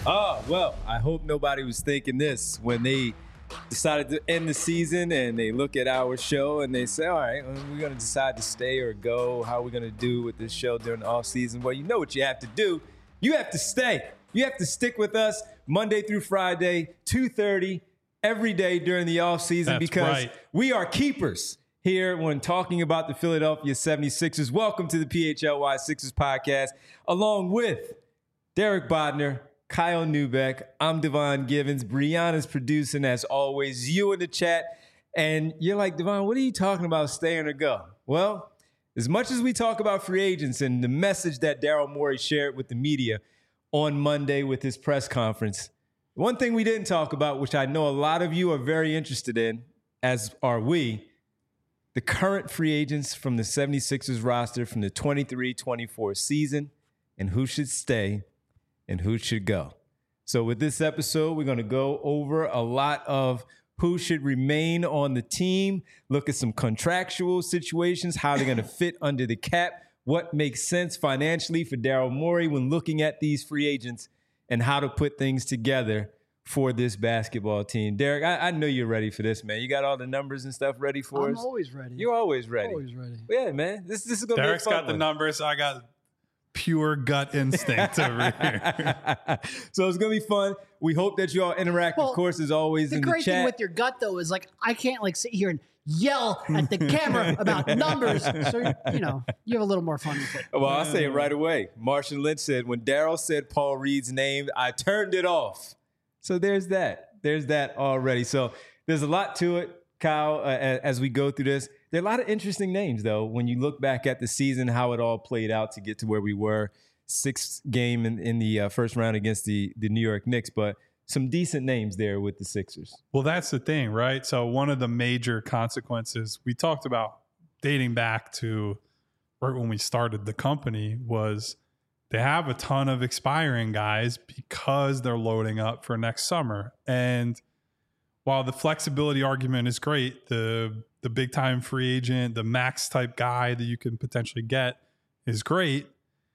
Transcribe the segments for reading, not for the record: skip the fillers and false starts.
Oh, well, I hope nobody was thinking this when they decided to end the season and they look at our show and they say, all right, we're going to decide to stay or go. How are we going to do with this show during the off season? Well, you know what you have to do. You have to stay. You have to stick with us Monday through Friday, 2:30 every day during the off season because we are keepers here when talking about the Philadelphia 76ers. Welcome to the PHLY Sixers podcast, along with Derek Bodner, Kyle Neubeck. I'm Devon Givens. Brianna's producing, as always. You in the chat. And you're like, Devon, what are you talking about, staying or go? Well, as much as we talk about free agents and the message that Daryl Morey shared with the media on Monday with his press conference, one thing we didn't talk about, which I know a lot of you are very interested in, as are we, the current free agents from the 76ers roster from the 23-24 season and who should stay and who should go. So with this episode, we're going to go over a lot of who should remain on the team, look at some contractual situations, how they're going to fit under the cap, what makes sense financially for Daryl Morey when looking at these free agents, and how to put things together for this basketball team. Derek, I know you're ready for this, man. You got all the numbers and stuff ready for us? I'm always ready. You're always ready. Always ready. Yeah, man. This is going to be a Derek's fun got the one. numbers. I got pure gut instinct over here. So it's going to be fun. We hope that you all interact, of course, as always, in the chat. The great thing with your gut, though, is like I can't like sit here and yell at the camera about numbers. So, you know, you have a little more fun with it. Well, I'll say it right away. Martian Lynch said, when Daryl said Paul Reed's name, I turned it off. So there's that. There's that already. So there's a lot to it, Kyle, as we go through this. There are a lot of interesting names, though, when you look back at the season, how it all played out to get to where we were. 6th game in the first round against the New York Knicks, but some decent names there with the Sixers. Well, that's the thing, right? So one of the major consequences we talked about dating back to right when we started the company was they have a ton of expiring guys because they're loading up for next summer. And while the flexibility argument is great, the big time free agent, the max type guy that you can potentially get is great.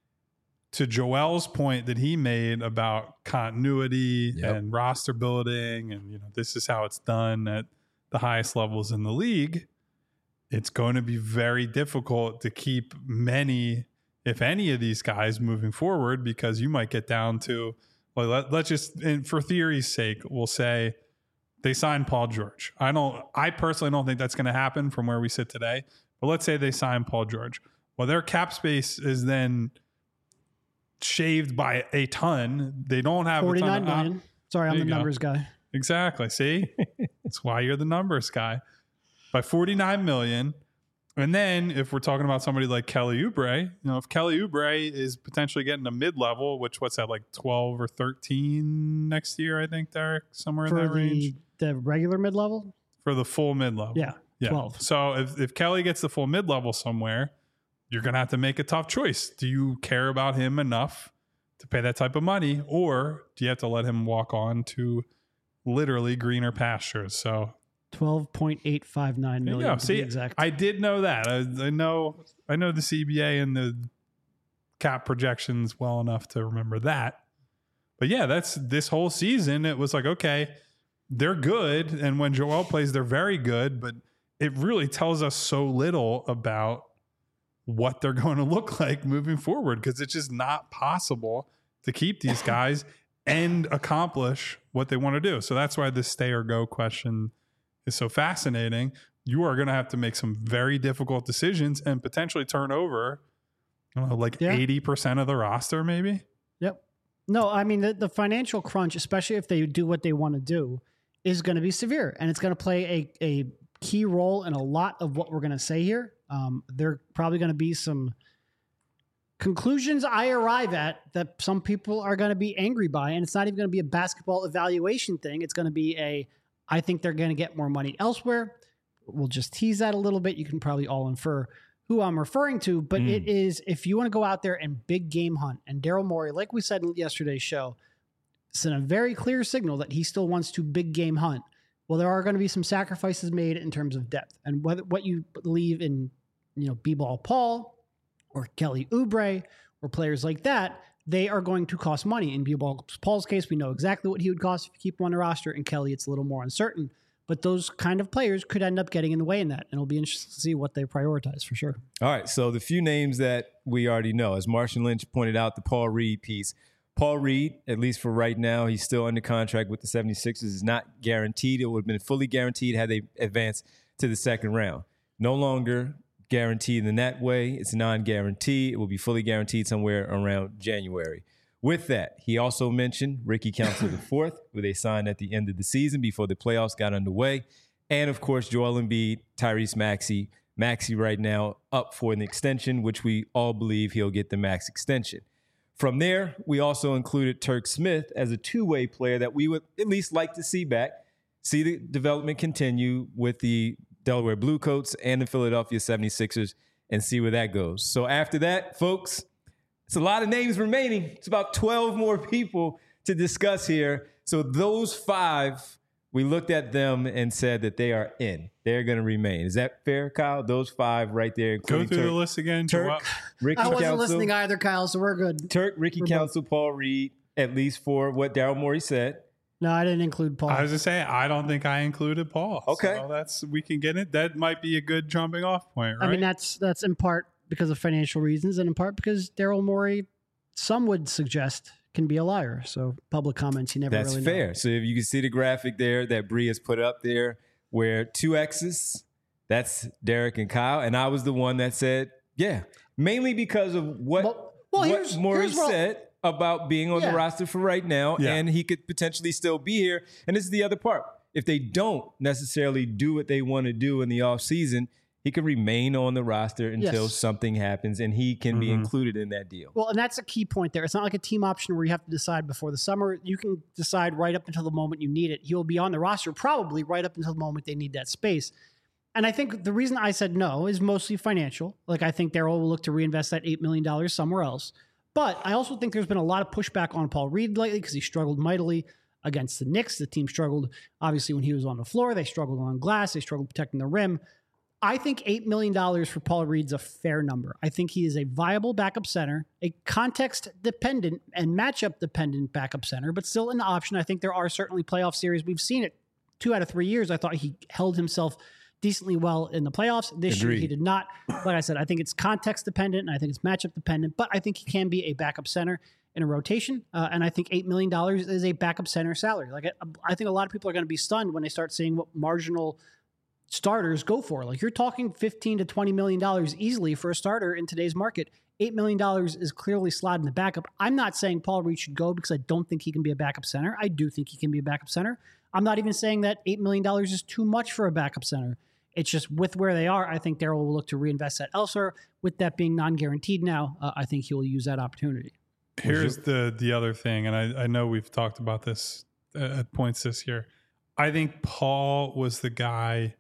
To Joel's point that he made about continuity and roster building, and you know, this is how it's done at the highest levels in the league, it's going to be very difficult to keep many, if any, of these guys moving forward, because you might get down to, well, let's just, and for theory's sake, we'll say they signed Paul George. I personally don't think that's going to happen from where we sit today, but let's say they sign Paul George. Well, their cap space is then shaved by a ton. They don't have 49 million. Sorry, I'm the numbers guy. Exactly. See? That's why you're the numbers guy. By 49 million. And then if we're talking about somebody like Kelly Oubre, you know, if Kelly Oubre is potentially getting a mid-level, which what's that, like 12 or 13 next year, I think, Derek, somewhere in that range. The regular mid-level? For the full mid-level. Yeah. 12. So if Kelly gets the full mid-level somewhere, you're going to have to make a tough choice. Do you care about him enough to pay that type of money, or do you have to let him walk on to literally greener pastures? So 12.859 million. See, exact. I did know that. I know the CBA and the cap projections well enough to remember that. But yeah, that's this whole season. It was like, okay, they're good, and when Joel plays, they're very good. But it really tells us so little about what they're going to look like moving forward, because it's just not possible to keep these guys and accomplish what they want to do. So that's why this stay or go question is so fascinating. You are going to have to make some very difficult decisions and potentially turn over 80% of the roster, maybe. Yep. No, I mean, the financial crunch, especially if they do what they want to do, is going to be severe, and it's going to play a key role in a lot of what we're going to say here. There are probably going to be some conclusions I arrive at that some people are going to be angry by, and it's not even going to be a basketball evaluation thing. It's going to be I think they're going to get more money elsewhere. We'll just tease that a little bit. You can probably all infer who I'm referring to, but it is, if you want to go out there and big game hunt, and Daryl Morey, like we said in yesterday's show, sent a very clear signal that he still wants to big game hunt. Well, there are going to be some sacrifices made in terms of depth, and what you believe in, B-Ball Paul or Kelly Oubre or players like that, they are going to cost money. In Paul's case, we know exactly what he would cost if you keep him on the roster. And Kelly, it's a little more uncertain. But those kind of players could end up getting in the way in that. And it'll be interesting to see what they prioritize for sure. All right, so the few names that we already know, as Marshall Lynch pointed out, the Paul Reed piece. Paul Reed, at least for right now, he's still under contract with the 76ers. Is not guaranteed. It would have been fully guaranteed had they advanced to the second round. No longer guaranteed in that way. It's non-guaranteed. It will be fully guaranteed somewhere around January. With that, he also mentioned Ricky Council IV, who they signed at the end of the season before the playoffs got underway. And, of course, Joel Embiid, Tyrese Maxey. Maxey right now up for an extension, which we all believe he'll get the max extension. From there, we also included Turk Smith as a two-way player that we would at least like to see back, see the development continue with the Delaware Bluecoats and the Philadelphia 76ers, and see where that goes. So after that, folks, it's a lot of names remaining. It's about 12 more people to discuss here. So those 5, we looked at them and said that they are in. They're going to remain. Is that fair, Kyle? Those 5 right there. Go through the list again. Turk, Ricky I wasn't Council, listening either, Kyle, so we're good. Ricky We're Council, Paul Reed, at least for what Daryl Morey said. No, I didn't include Paul. I was just saying, I don't think I included Paul. Okay. So we can get it. That might be a good jumping off point, right? I mean, that's in part because of financial reasons and in part because Daryl Morey, some would suggest, can be a liar. So public comments, you never That's really fair. know. So if you can see the graphic there that Bree has put up there, where 2 X's, that's Derek and Kyle. And I was the one that said, yeah, mainly because of what Morey said about being on the roster for right now. Yeah. And he could potentially still be here. And this is the other part. If they don't necessarily do what they want to do in the offseason, he could remain on the roster until something happens, and he can be included in that deal. Well, and that's a key point there. It's not like a team option where you have to decide before the summer. You can decide right up until the moment you need it. He'll be on the roster probably right up until the moment they need that space. And I think the reason I said no is mostly financial. Like, I think Daryl will look to reinvest that $8 million somewhere else. But I also think there's been a lot of pushback on Paul Reed lately because he struggled mightily against the Knicks. The team struggled, obviously, when he was on the floor. They struggled on glass. They struggled protecting the rim. I think $8 million for Paul Reed's a fair number. I think he is a viable backup center, a context-dependent and matchup-dependent backup center, but still an option. I think there are certainly playoff series. We've seen it 2 out of 3 years. I thought he held himself decently well in the playoffs. This year he did not. Like I said, I think it's context-dependent, and I think it's matchup-dependent, but I think he can be a backup center in a rotation, and I think $8 million is a backup center salary. Like, I think a lot of people are going to be stunned when they start seeing what marginal starters go for. Like, you're talking $15 to $20 million easily for a starter in today's market. $8 million is clearly slotted in the backup. I'm not saying Paul Reed should go because I don't think he can be a backup center. I do think he can be a backup center. I'm not even saying that $8 million is too much for a backup center. It's just with where they are, I think Daryl will look to reinvest that elsewhere. With that being non-guaranteed now, I think he will use that opportunity. Here's the other thing, and I know we've talked about this at points this year. I think Paul was the guy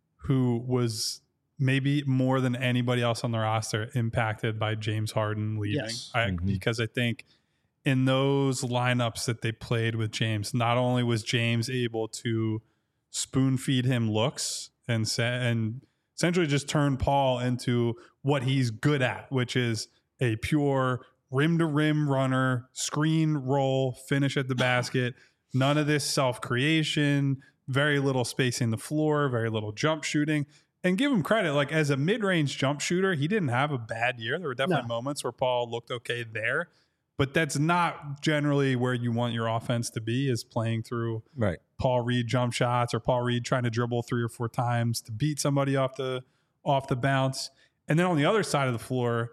who was maybe more than anybody else on the roster impacted by James Harden leaving. Yes. Because I think in those lineups that they played with James, not only was James able to spoon feed him looks and essentially just turn Paul into what he's good at, which is a pure rim-to-rim runner, screen roll, finish at the basket, none of this self-creation, very little spacing the floor, very little jump shooting. And give him credit, like as a mid-range jump shooter, he didn't have a bad year. There were definitely moments where Paul looked okay there, but that's not generally where you want your offense to be, is playing through Paul Reed jump shots or Paul Reed trying to dribble 3 or 4 times to beat somebody off the bounce. And then on the other side of the floor,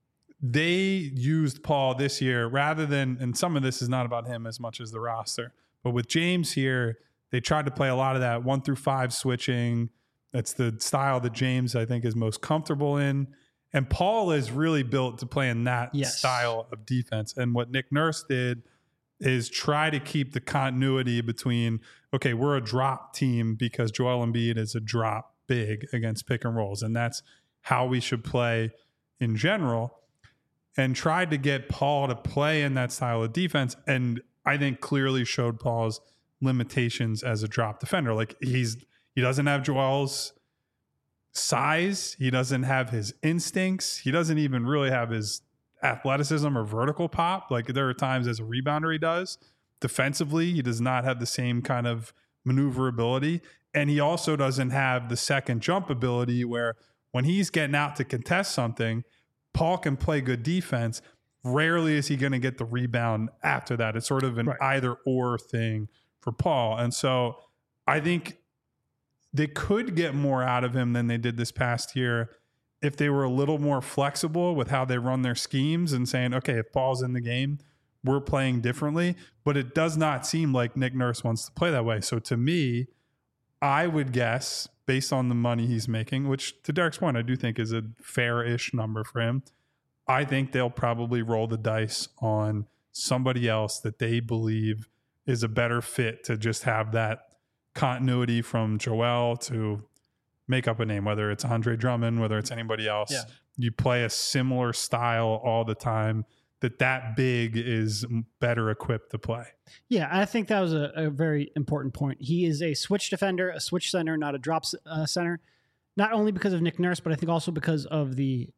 they used Paul this year rather than, and some of this is not about him as much as the roster, but with James here, they tried to play a lot of that 1 through 5 switching. That's the style that James, I think, is most comfortable in. And Paul is really built to play in that style of defense. And what Nick Nurse did is try to keep the continuity between, okay, we're a drop team because Joel Embiid is a drop big against pick and rolls. And that's how we should play in general. And tried to get Paul to play in that style of defense. And I think clearly showed Paul's limitations as a drop defender. Like he doesn't have Joel's size. He doesn't have his instincts. He doesn't even really have his athleticism or vertical pop. Like there are times as a rebounder he does. Defensively, he does not have the same kind of maneuverability. And he also doesn't have the second jump ability where when he's getting out to contest something, Paul can play good defense. Rarely is he going to get the rebound after that. It's sort of an either or thing for Paul. And so I think they could get more out of him than they did this past year if they were a little more flexible with how they run their schemes and saying, okay, if Paul's in the game, we're playing differently. But it does not seem like Nick Nurse wants to play that way. So to me, I would guess, based on the money he's making, which to Derek's point, I do think is a fair-ish number for him, I think they'll probably roll the dice on somebody else that they believe is a better fit to just have that continuity from Joel to make up a name, whether it's Andre Drummond, whether it's anybody else. Yeah. You play a similar style all the time, that big is better equipped to play. Yeah, I think that was a very important point. He is a switch defender, a switch center, not a drop center, not only because of Nick Nurse, but I think also because of the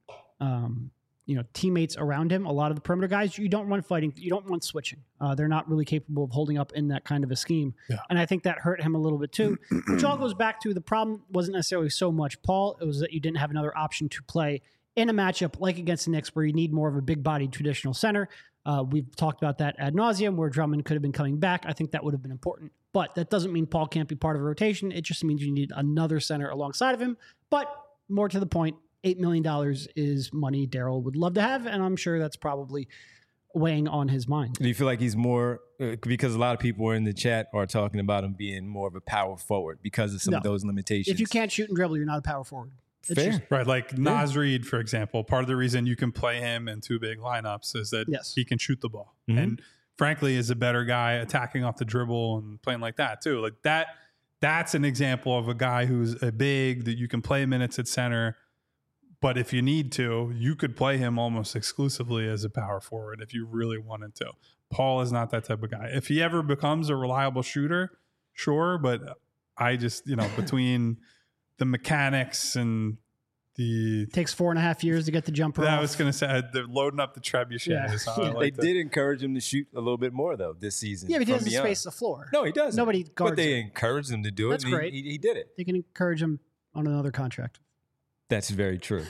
teammates around him. A lot of the perimeter guys, you don't want fighting, you don't want switching. They're not really capable of holding up in that kind of a scheme. Yeah. And I think that hurt him a little bit too, which all goes back to the problem wasn't necessarily so much Paul, it was that you didn't have another option to play in a matchup like against the Knicks where you need more of a big-bodied traditional center. We've talked about that ad nauseum where Drummond could have been coming back. I think that would have been important. But that doesn't mean Paul can't be part of a rotation. It just means you need another center alongside of him. But more to the point, $8 million is money Daryl would love to have, and I'm sure that's probably weighing on his mind. Do you feel like he's more, because a lot of people in the chat are talking about him being more of a power forward because of some of those limitations? If you can't shoot and dribble, you're not a power forward. Fair. Right. Like Naz Reid, for example, part of the reason you can play him in two big lineups is that he can shoot the ball. Mm-hmm. And frankly, is a better guy attacking off the dribble and playing like that too. Like that's an example of a guy who's a big that you can play minutes at center. But if you need to, you could play him almost exclusively as a power forward if you really wanted to. Paul is not that type of guy. If he ever becomes a reliable shooter, sure. But I just, between the mechanics and takes 4.5 years to get the jumper off. I was going to say they're loading up the trebuchet. Yeah. They did encourage him to shoot a little bit more though this season. Yeah, but he doesn't space the floor. No, he doesn't. Nobody guards But they encouraged him to do it. That's great. He did it. They can encourage him on another contract. That's very true.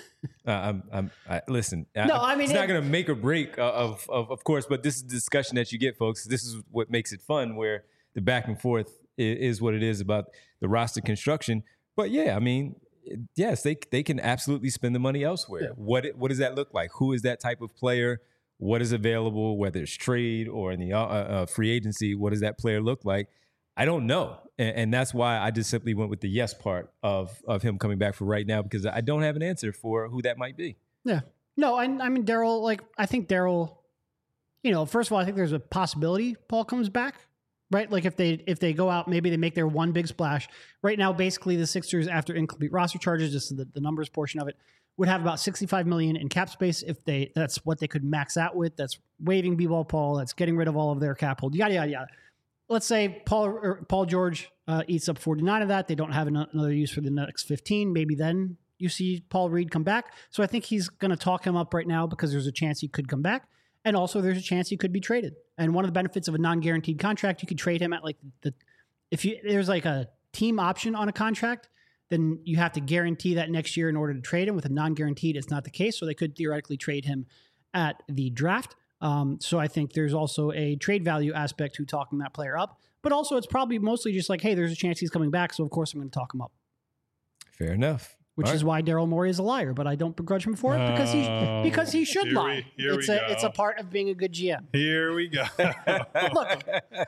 Listen. It's not going to make or break of course, but this is the discussion that you get, folks. This is what makes it fun, where the back and forth is what it is about the roster construction. But yeah, yes, they can absolutely spend the money elsewhere. Yeah. What does that look like? Who is that type of player? What is available, whether it's trade or in the free agency? What does that player look like? I don't know. And that's why I just simply went with the yes part of him coming back for right now, because I don't have an answer for who that might be. Yeah. No, Daryl, I think Daryl, first of all, I think there's a possibility Paul comes back. Right, like if they go out, maybe they make their one big splash. Right now, basically the Sixers, after incomplete roster charges, just the numbers portion of it, would have about $65 million in cap space if that's what they could max out with. That's waiving B-ball Paul. That's getting rid of all of their cap hold. Yada yada yada. Let's say Paul George eats up 49 of that. They don't have another use for the next 15. Maybe then you see Paul Reed come back. So I think he's going to talk him up right now because there's a chance he could come back. And also there's a chance he could be traded. And one of the benefits of a non-guaranteed contract, you could trade him at there's like a team option on a contract, then you have to guarantee that next year in order to trade him. With a non-guaranteed, it's not the case. So they could theoretically trade him at the draft. So I think there's also a trade value aspect to talking that player up. But also it's probably mostly just like, hey, there's a chance he's coming back. So of course I'm going to talk him up. Fair enough. Which is why Daryl Morey is a liar, but I don't begrudge him for it because he should lie. It's a part of being a good GM. Here we go. Look,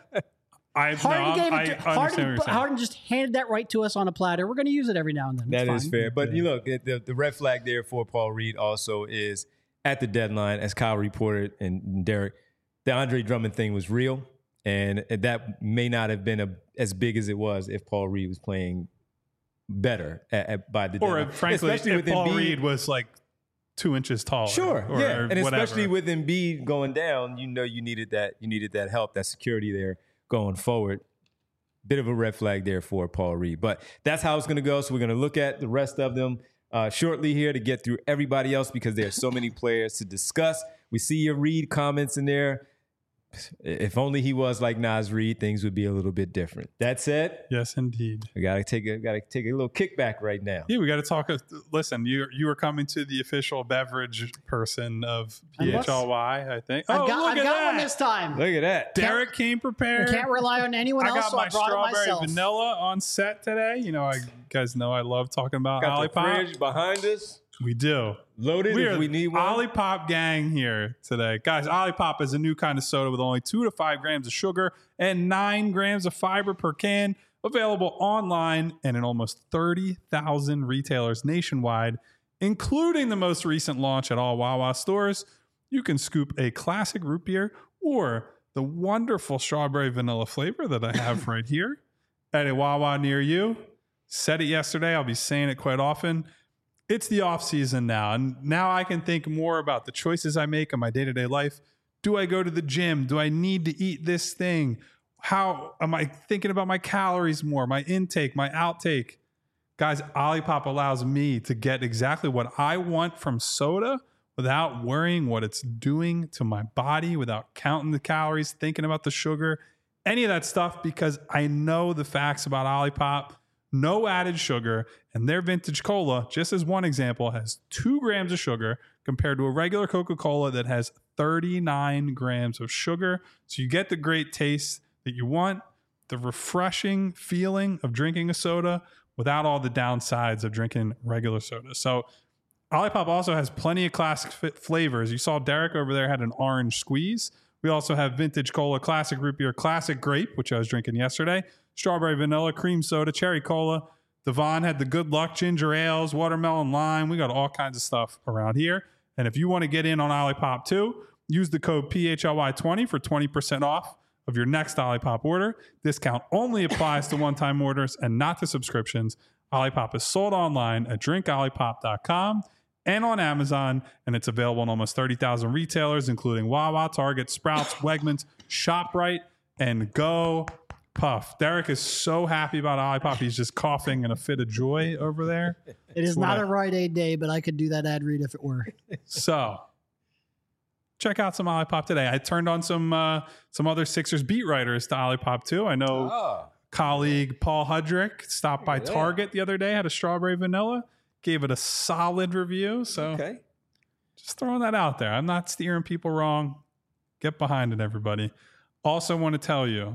Harden just handed that right to us on a platter. We're going to use it every now and then. That is fair. But you look, the red flag there for Paul Reed also is at the deadline, as Kyle reported and Derek, the Andre Drummond thing was real, and that may not have been as big as it was if Paul Reed was playing better by the deadline. Or frankly, especially if Paul Reed was like 2 inches taller. Sure, yeah, and especially with Embiid going down, you needed that help, that security there going forward. Bit of a red flag there for Paul Reed, but that's how it's going to go. So we're going to look at the rest of them. shortly here to get through everybody else because there are so many players to discuss. We see your Reed comments in there. If only he was like Naz Reid, things would be a little bit different. That said, yes, indeed. We gotta take a little kickback right now. Yeah, we got to talk. Listen, you were coming to the official beverage person of PHLY, I think. I've got one this time. Look at that. Derek came prepared. I can't rely on anyone else. I got so my I brought it strawberry myself. vanilla on set today. You know, you guys know I love talking about Got the Olipop. fridge behind us. We do. Loaded if we need one. Olipop gang here today. Guys, Olipop is a new kind of soda with only 2 to 5 grams of sugar and 9 grams of fiber per can. Available online and in almost 30,000 retailers nationwide, including the most recent launch at all Wawa stores. You can scoop a classic root beer or the wonderful strawberry vanilla flavor that I have right here at a Wawa near you. Said it yesterday. I'll be saying it quite often. It's the off season now, and now I can think more about the choices I make in my day-to-day life. Do I go to the gym? Do I need to eat this thing? How am I thinking about my calories more, my intake, my outtake? Guys, Olipop allows me to get exactly what I want from soda without worrying what it's doing to my body, without counting the calories, thinking about the sugar, any of that stuff, because I know the facts about Olipop. No added sugar, and their vintage cola, just as one example, has 2 grams of sugar compared to a regular Coca-Cola that has 39 grams of sugar. So you get the great taste that you want, the refreshing feeling of drinking a soda without all the downsides of drinking regular soda. So Olipop also has plenty of classic flavors. You saw Derek over there had an orange squeeze. We also have vintage cola, classic root beer, classic grape, which I was drinking yesterday, strawberry vanilla, cream soda, cherry cola. Devon had the good luck ginger ales, watermelon lime. We got all kinds of stuff around here. And if you want to get in on Olipop too, use the code PHLY20 for 20% off of your next Olipop order. Discount only applies to one-time orders and not to subscriptions. Olipop is sold online at drinkolipop.com and on Amazon, and it's available in almost 30,000 retailers, including Wawa, Target, Sprouts, Wegmans, ShopRite, and Go Puff. Derek is so happy about Olipop. He's just coughing in a fit of joy over there. It is not a Rite Aid day, but I could do that ad read if it were. So check out some Olipop today. I turned on some other Sixers beat writers to Olipop too. I know colleague Paul Hudrick stopped by Target the other day, had a strawberry vanilla, gave it a solid review. So just throwing that out there. I'm not steering people wrong. Get behind it, everybody. Also want to tell you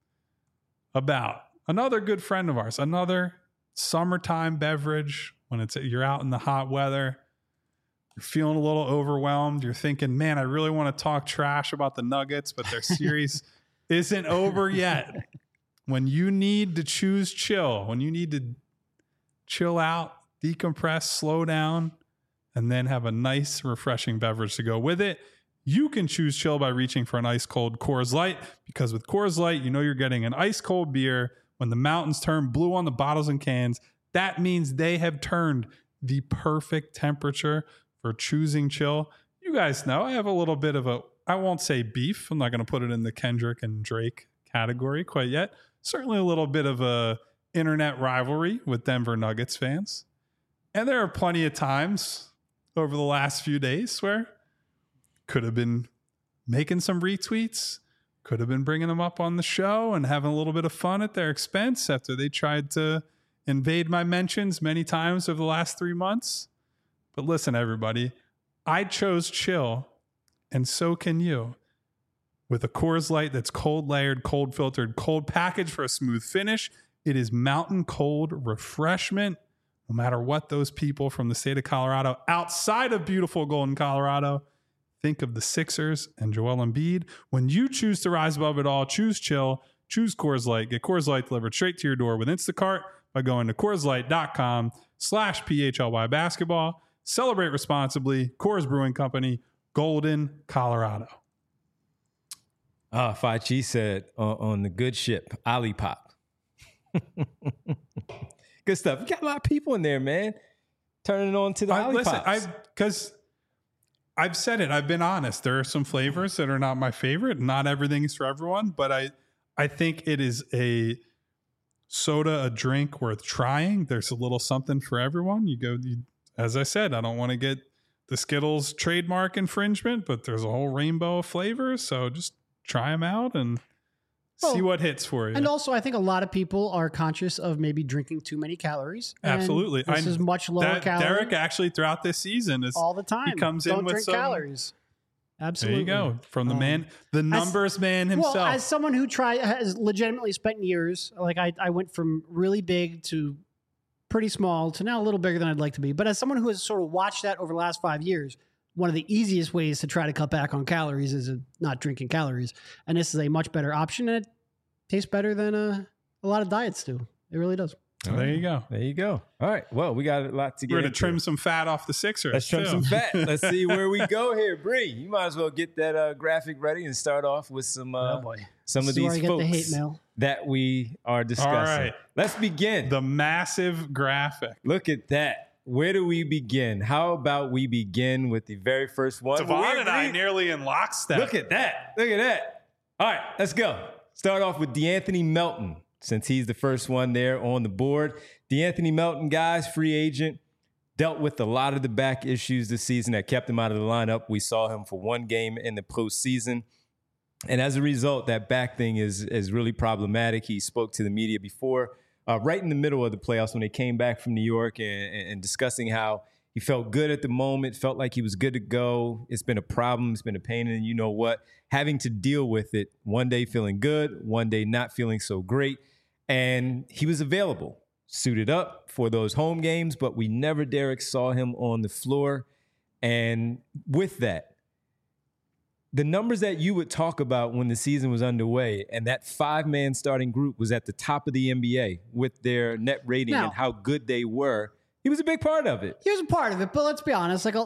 about another good friend of ours, another summertime beverage when you're out in the hot weather, you're feeling a little overwhelmed, you're thinking, man, I really want to talk trash about the Nuggets, but their series isn't over yet. When you need to choose chill, when you need to chill out, decompress, slow down, and then have a nice, refreshing beverage to go with it, you can choose chill by reaching for an ice cold Coors Light, because with Coors Light, you know you're getting an ice cold beer. When the mountains turn blue on the bottles and cans, that means they have turned the perfect temperature for choosing chill. You guys know I have a little bit of I won't say beef. I'm not going to put it in the Kendrick and Drake category quite yet. Certainly a little bit of a internet rivalry with Denver Nuggets fans. And there are plenty of times over the last few days where could have been making some retweets, could have been bringing them up on the show and having a little bit of fun at their expense after they tried to invade my mentions many times over the last 3 months. But listen, everybody, I chose chill, and so can you. With a Coors Light that's cold layered, cold filtered, cold packaged for a smooth finish, it is mountain cold refreshment. No matter what those people from the state of Colorado, outside of beautiful Golden, Colorado, think of the Sixers and Joel Embiid. When you choose to rise above it all, choose chill, choose Coors Light. Get Coors Light delivered straight to your door with Instacart by going to CoorsLight.com/PHLY basketball. Celebrate responsibly. Coors Brewing Company, Golden, Colorado. Fachi said on the good ship, Olipop. Good stuff. You got a lot of people in there, man. Turning on to the Olipops. Listen, because I've said it. I've been honest. There are some flavors that are not my favorite. Not everything is for everyone, but I think it is a soda, a drink worth trying. There's a little something for everyone. as I said, I don't want to get the Skittles trademark infringement, but there's a whole rainbow of flavors. So just try them out and see what hits for you. And also, I think a lot of people are conscious of maybe drinking too many calories. Absolutely. This is much lower calorie. Derek actually throughout this season is all the time. He comes Don't in with drink some calories. Absolutely. There you go. From the man, the numbers man himself. Well, as someone who has legitimately spent years, like I went from really big to pretty small to now a little bigger than I'd like to be. But as someone who has sort of watched that over the last 5 years, one of the easiest ways to try to cut back on calories is not drinking calories. And this is a much better option, and it tastes better than a lot of diets do. It really does. So there you go. There you go. All right. Well, we got a lot to get We're into. going to trim some fat off the Sixers. Let's trim some fat. Let's see where we go here. Bree, you might as well get that graphic ready and start off with some some of these folks the hate mail that we are discussing. All right. Let's begin. The massive graphic. Look at that. Where do we begin? How about we begin with the very first one? Devon and I nearly in lockstep. Look at that. Look at that. All right, let's go. Start off with DeAnthony Melton, since he's the first one there on the board. DeAnthony Melton, guys, free agent, dealt with a lot of the back issues this season that kept him out of the lineup. We saw him for one game in the postseason. And as a result, that back thing is really problematic. He spoke to the media before, right in the middle of the playoffs when they came back from New York and discussing how he felt good at the moment, felt like he was good to go. It's been a problem. It's been a pain. And you know what? Having to deal with it, one day feeling good, one day not feeling so great. And he was available, suited up for those home games, but we never, Derek, saw him on the floor. And with that, the numbers that you would talk about when the season was underway and that 5-man starting group was at the top of the NBA with their net rating and how good they were. He was a big part of it. He was a part of it, but let's be honest, like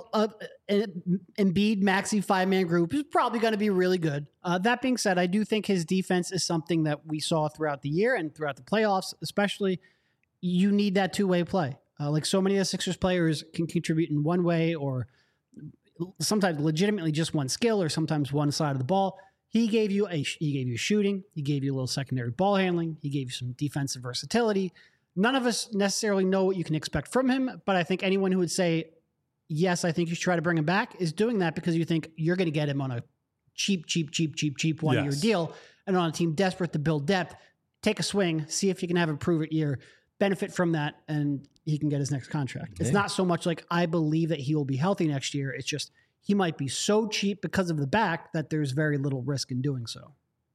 an Embiid Maxey 5-man group is probably going to be really good. That being said, I do think his defense is something that we saw throughout the year and throughout the playoffs, especially. You need that two-way play. Like so many of the Sixers players can contribute in one way or sometimes legitimately just one skill or sometimes one side of the ball. He gave you shooting. He gave you a little secondary ball handling. He gave you some defensive versatility. None of us necessarily know what you can expect from him, but I think anyone who would say, yes, I think you should try to bring him back is doing that because you think you're going to get him on a cheap one-year deal and on a team desperate to build depth. Take a swing, see if you can have a prove-it year, benefit from that, and he can get his next contract. Okay. It's not so much like I believe that he will be healthy next year. It's just he might be so cheap because of the back that there's very little risk in doing so.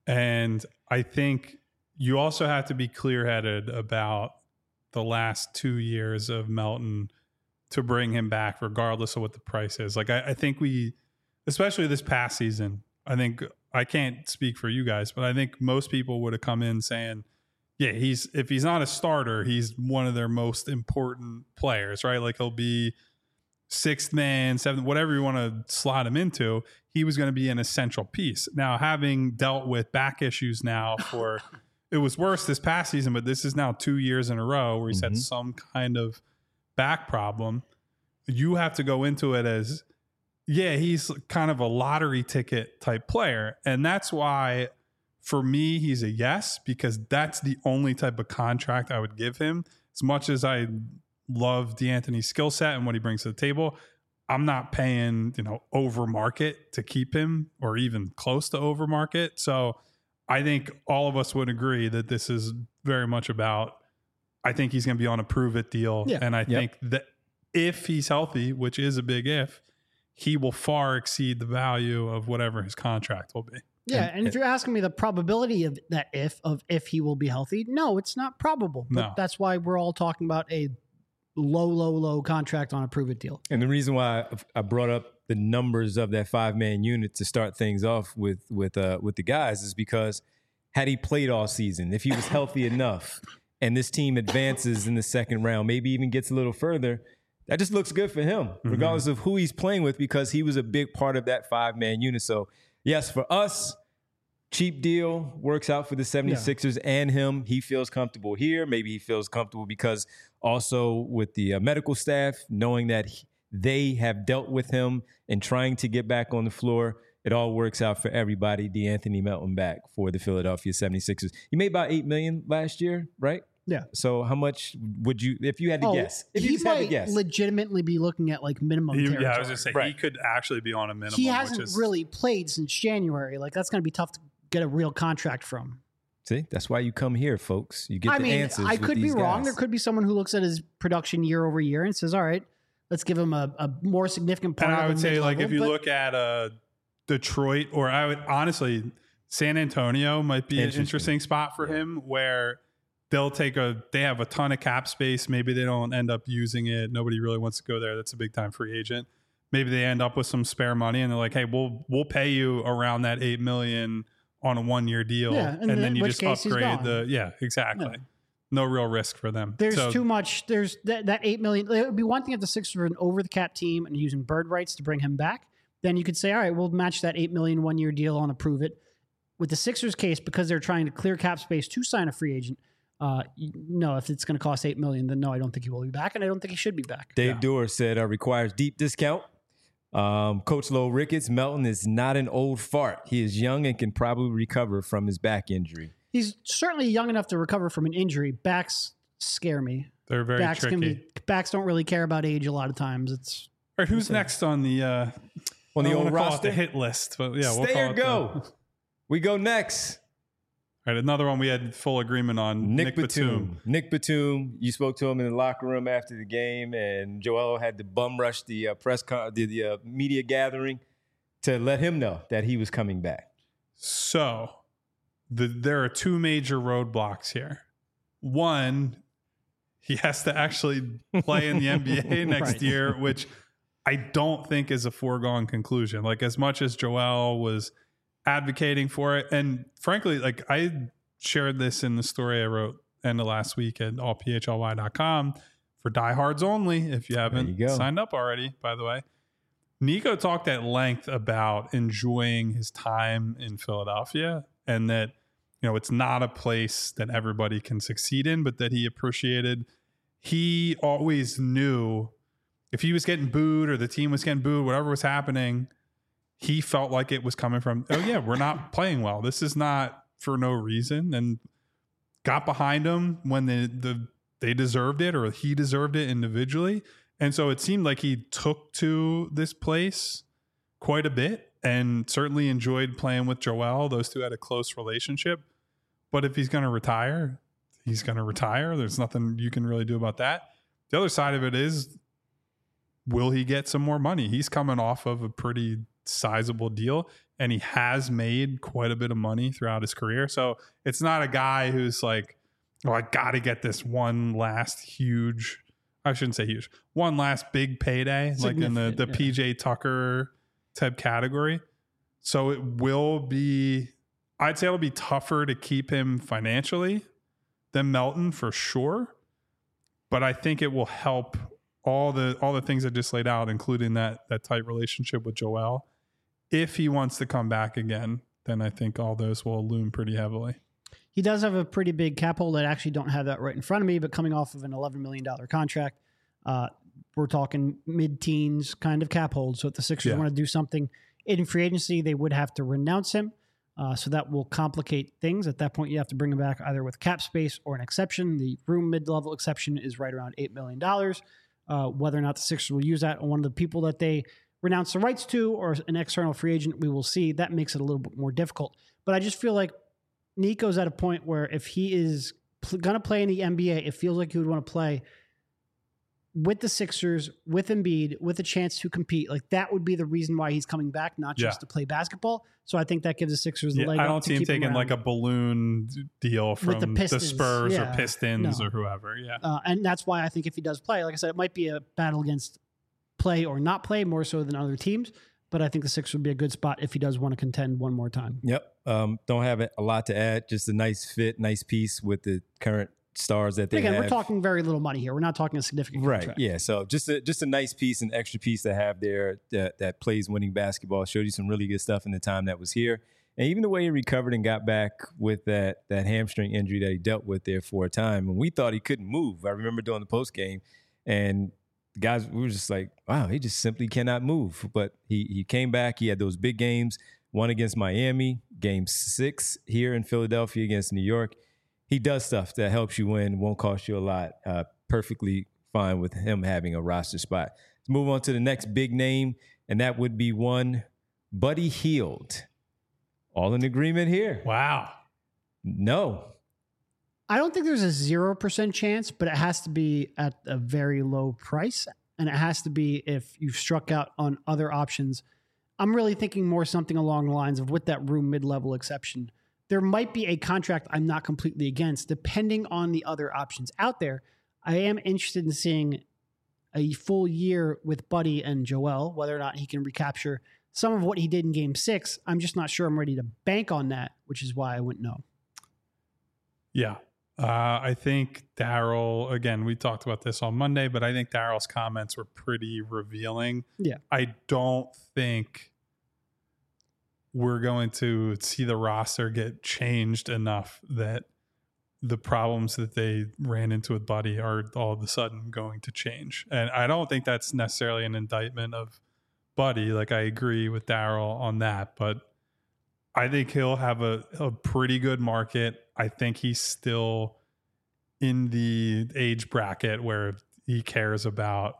And I think you also have to be clear-headed about the last 2 years of Melton to bring him back, regardless of what the price is. Like, I think we, especially this past season, I can't speak for you guys, but I think most people would have come in saying, yeah, if he's not a starter, he's one of their most important players, right? Like he'll be 6th man, 7th, whatever you want to slot him into. He was going to be an essential piece. Now, having dealt with back issues now for it was worse this past season, but this is now 2 years in a row where he's had some kind of back problem. You have to go into it as, yeah, he's kind of a lottery ticket type player. And that's why, for me, he's a yes, because that's the only type of contract I would give him. As much as I love DeAnthony's skill set and what he brings to the table, I'm not paying, over market to keep him or even close to over market. So I think all of us would agree that this is very much about, I think he's going to be on a prove-it deal. Yeah. And I think that if he's healthy, which is a big if, he will far exceed the value of whatever his contract will be. Yeah, and if you're asking me the probability of that if he will be healthy, no, it's not probable. But that's why we're all talking about a low contract on a prove-it deal. And the reason why I brought up the numbers of that 5-man unit to start things off with the guys is because had he played all season, if he was healthy enough and this team advances in the second round, maybe even gets a little further, that just looks good for him, regardless of who he's playing with, because he was a big part of that 5-man unit. So, yes, for us, cheap deal, works out for the 76ers and him. He feels comfortable here. Maybe he feels comfortable because also with the medical staff, knowing that they have dealt with him and trying to get back on the floor. It all works out for everybody. DeAnthony Melton back for the Philadelphia 76ers. He made about $8 million last year, right? Yeah. So how much would you, if you had to guess? If you he just had to might guess. legitimately be looking at like minimum territory. Yeah, I was going to say, he Right. could actually be on a minimum. He hasn't which is, really played since January. Like that's going to be tough to get a real contract from. See, that's why you come here, folks. You get I the mean, answers. I with could be these wrong. guys. There could be someone who looks at his production year over year and says, all right, let's give him a more significant part. And I of would the say, like, mid-level, if you but- look at Detroit, or I would honestly, San Antonio might be an interesting spot for him, where they have a ton of cap space. Maybe they don't end up using it. Nobody really wants to go there. That's a big time free agent. Maybe they end up with some spare money and they're like, hey, we'll pay you around that $8 million on a 1-year deal. Yeah, and then you which just case he's upgrade gone. exactly. Yeah. No real risk for them. There's too much. There's that $8 million. It would be one thing if the Sixers were an over the cap team and using bird rights to bring him back. Then you could say, all right, we'll match that $8 million 1-year deal on approve it. With the Sixers case, because they're trying to clear cap space to sign a free agent, no, if it's going to cost $8 million, then no, I don't think he will be back, and I don't think he should be back. Dave Doer said requires deep discount. Coach Low Ricketts, Melton is not an old fart. He is young and can probably recover from his back injury. He's certainly young enough to recover from an injury. Backs scare me. They're very tricky. Backs don't really care about age a lot of times. It's All right, who's next on the On the I don't old wanna call it roster? the hit list, but yeah, we'll Stay call or it go. We go next. All right, another one we had full agreement on. Nick Batum. Nick Batum, you spoke to him in the locker room after the game, and Joel had to bum rush the the media gathering to let him know that he was coming back. So there are two major roadblocks here. One, he has to actually play in the NBA next Right. year, which I don't think is a foregone conclusion. Like, as much as Joel was advocating for it, and frankly, like, I shared this in the story I wrote end of last week at allphly.com for diehards only, if you haven't signed up already, by the way. Nico talked at length about enjoying his time in Philadelphia, and that, you know, it's not a place that everybody can succeed in, but that he appreciated. He always knew if he was getting booed or the team was getting booed, whatever was happening, he felt like it was coming from, oh yeah, we're not playing well. This is not for no reason. And got behind him when they deserved it, or he deserved it individually. And so it seemed like he took to this place quite a bit and certainly enjoyed playing with Joel. Those two had a close relationship. But if he's going to retire, he's going to retire. There's nothing you can really do about that. The other side of it is, will he get some more money? He's coming off of a pretty sizable deal, and he has made quite a bit of money throughout his career. So it's not a guy who's like, oh, I got to get this one last huge, I shouldn't say huge, one last big payday, like in the PJ Tucker type category. So it will be, I'd say it'll be tougher to keep him financially than Melton for sure. But I think it will help all the things I just laid out, including that tight relationship with Joel. If he wants to come back again, then I think all those will loom pretty heavily. He does have a pretty big cap hold. I actually don't have that right in front of me, but coming off of an $11 million contract, we're talking mid-teens kind of cap hold. So if the Sixers want to do something in free agency, they would have to renounce him. So that will complicate things. At that point, you have to bring him back either with cap space or an exception. The room mid-level exception is right around $8 million. Whether or not the Sixers will use that on one of the people that they renounce the rights to or an external free agent, we will see. That makes it a little bit more difficult. But I just feel like Nico's at a point where if he is going to play in the NBA, it feels like he would want to play with the Sixers, with Embiid, with a chance to compete. Like, that would be the reason why he's coming back, not just to play basketball. So I think that gives the Sixers the leg up. I don't see him taking like a balloon deal from the Spurs or Pistons or whoever. Yeah. And that's why I think if he does play, like I said, it might be a battle against play or not play more so than other teams. But I think the Sixers would be a good spot if he does want to contend one more time. Yep. Don't have a lot to add. Just a nice fit, nice piece with the current stars that they have. We're talking very little money here. We're not talking a significant contract. Yeah. So just a nice piece, an extra piece to have there that plays winning basketball. Showed you some really good stuff in the time that was here. And even the way he recovered and got back with that hamstring injury that he dealt with there for a time. And we thought he couldn't move. I remember doing the post game, and guys, we were just like, wow, he just simply cannot move. But he came back. He had those big games, one against Miami, game 6 here in Philadelphia against New York. he does stuff that helps you win, won't cost you a lot. Perfectly fine with him having a roster spot. Let's move on to the next big name, and that would be one Buddy Hield. All in agreement here? Wow. No. I don't think there's a 0% chance, but it has to be at a very low price. And it has to be if you've struck out on other options. I'm really thinking more something along the lines of with that room mid-level exception. There might be a contract I'm not completely against, depending on the other options out there. I am interested in seeing a full year with Buddy and Joel, whether or not he can recapture some of what he did in Game 6. I'm just not sure I'm ready to bank on that, which is why I went no. Yeah. I think Daryl, again, we talked about this on Monday, but I think Daryl's comments were pretty revealing. Yeah. I don't think we're going to see the roster get changed enough that the problems that they ran into with Buddy are all of a sudden going to change. And I don't think that's necessarily an indictment of Buddy. Like, I agree with Daryl on that, but I think he'll have a pretty good market. I think he's still in the age bracket where he cares about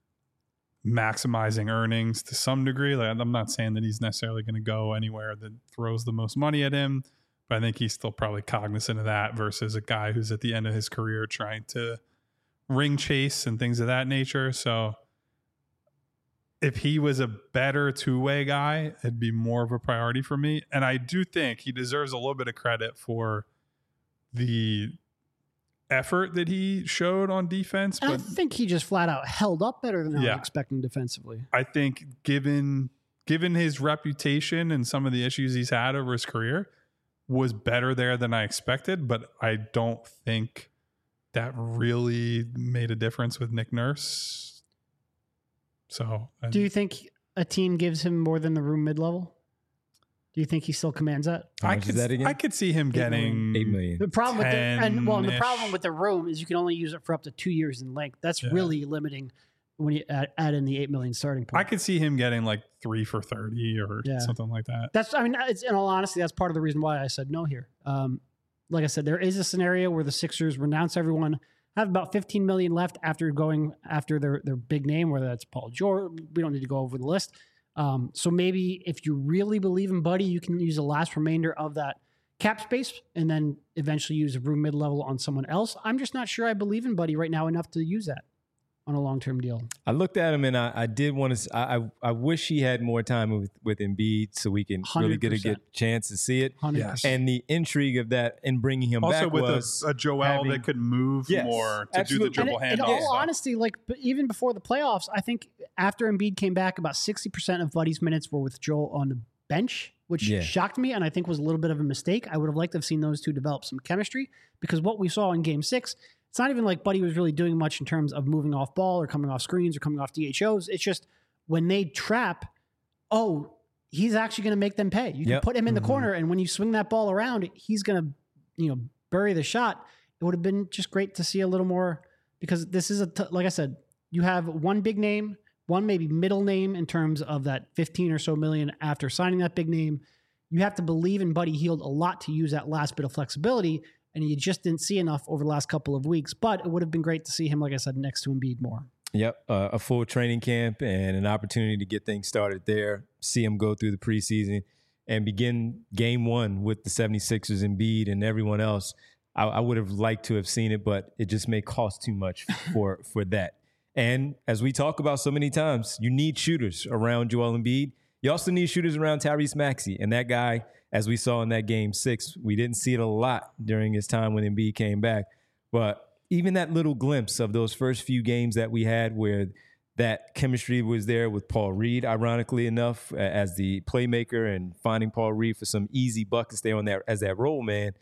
maximizing earnings to some degree. Like, I'm not saying that he's necessarily going to go anywhere that throws the most money at him, but I think he's still probably cognizant of that versus a guy who's at the end of his career trying to ring chase and things of that nature. So if he was a better two-way guy, it'd be more of a priority for me. And I do think he deserves a little bit of credit for the effort that he showed on defense. And But I think he just flat out held up better than I was expecting defensively. I think given his reputation and some of the issues he's had over his career, was better there than I expected. But I don't think that really made a difference with Nick Nurse. So, do you think a team gives him more than the room mid-level? Do you think he still commands that? How much is that again? I could see him getting $8 million. The problem with the 10-ish. problem with the room is you can only use it for up to 2 years in length. That's really limiting when you add in the $8 million starting point. I could see him getting like 3 for 30 or something like that. That's, I mean, it's, in all honesty, that's part of the reason why I said no here. Like I said, there is a scenario where the Sixers renounce everyone, have about $15 million left after going after their big name, whether that's Paul George. We don't need to go over the list. So maybe if you really believe in Buddy, you can use the last remainder of that cap space and then eventually use a room mid-level on someone else. I'm just not sure I believe in Buddy right now enough to use that on a long-term deal. I looked at him and I did want to. I wish he had more time with Embiid so we can really get a good chance to see it. 100%. And the intrigue of that and bringing him Also back with was a Joel that could move more to absolutely. do the dribble In handoff. all honesty, like even before the playoffs, I think after Embiid came back, about 60% of Buddy's minutes were with Joel on the bench, which shocked me and I think was a little bit of a mistake. I would have liked to have seen those two develop some chemistry because what we saw in Game 6, it's not even like Buddy was really doing much in terms of moving off ball or coming off screens or coming off DHOs. It's just when they trap, he's actually going to make them pay. You can put him in the corner, and when you swing that ball around, he's going to, bury the shot. It would have been just great to see a little more because this is like I said, you have one big name, one maybe middle name in terms of that 15 or so million after signing that big name. You have to believe in Buddy Hield a lot to use that last bit of flexibility. And you just didn't see enough over the last couple of weeks. But it would have been great to see him, like I said, next to Embiid more. Yep, a full training camp and an opportunity to get things started there, see him go through the preseason and begin Game 1 with the 76ers, Embiid, and everyone else. I would have liked to have seen it, but it just may cost too much for that. And as we talk about so many times, you need shooters around Joel Embiid. You also need shooters around Tyrese Maxey. And that guy, as we saw in that Game 6, we didn't see it a lot during his time when Embiid came back. But even that little glimpse of those first few games that we had where that chemistry was there with Paul Reed, ironically enough, as the playmaker and finding Paul Reed for some easy buckets there on that as that role man.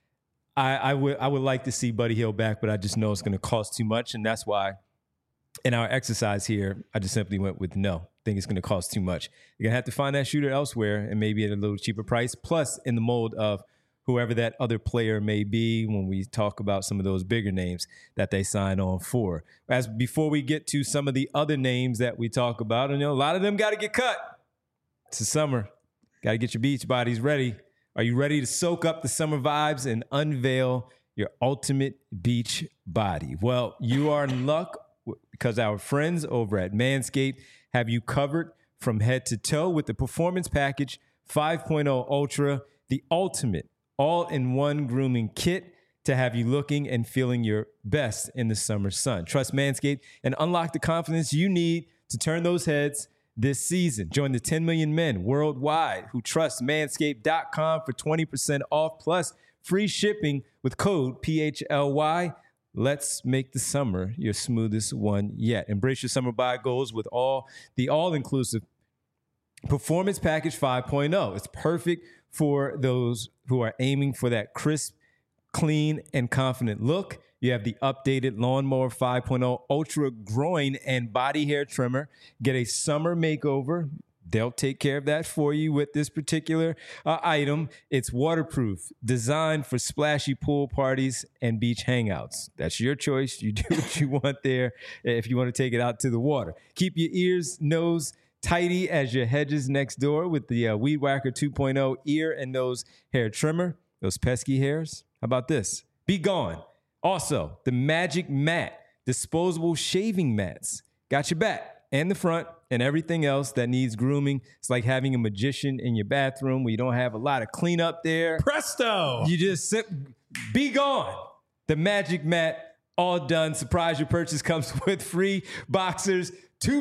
I would like to see Buddy Hield back, but I just know it's going to cost too much. And that's why in our exercise here, I just simply went with no. I think it's going to cost too much. You're going to have to find that shooter elsewhere and maybe at a little cheaper price. Plus, in the mold of whoever that other player may be when we talk about some of those bigger names that they sign on for. As before we get to some of the other names that we talk about, and a lot of them got to get cut. It's the summer. Got to get your beach bodies ready. Are you ready to soak up the summer vibes and unveil your ultimate beach body. Well, you are in luck because our friends over at Manscaped have you covered from head to toe with the Performance Package 5.0 Ultra, the ultimate all-in-one grooming kit to have you looking and feeling your best in the summer sun. Trust Manscaped and unlock the confidence you need to turn those heads this season. Join the 10 million men worldwide who trust Manscaped.com for 20% off plus free shipping with code PHLY. Let's make the summer your smoothest one yet. Embrace your summer buy goals with the all-inclusive Performance Package 5.0. It's perfect for those who are aiming for that crisp, clean, and confident look. You have the updated Lawnmower 5.0 Ultra Groin and Body Hair Trimmer. Get a summer makeover. They'll take care of that for you with this particular item. It's waterproof, designed for splashy pool parties and beach hangouts. That's your choice. You do what you want there if you want to take it out to the water. Keep your ears, nose tidy as your hedges next door with the Weed Whacker 2.0 ear and nose hair trimmer. Those pesky hairs. How about this? Be gone. Also, the Magic Mat disposable shaving mats. Got your back and the front and everything else that needs grooming. It's like having a magician in your bathroom where you don't have a lot of cleanup there. Presto! You just be gone. The Magic Mat, all done. Surprise, your purchase comes with free Boxers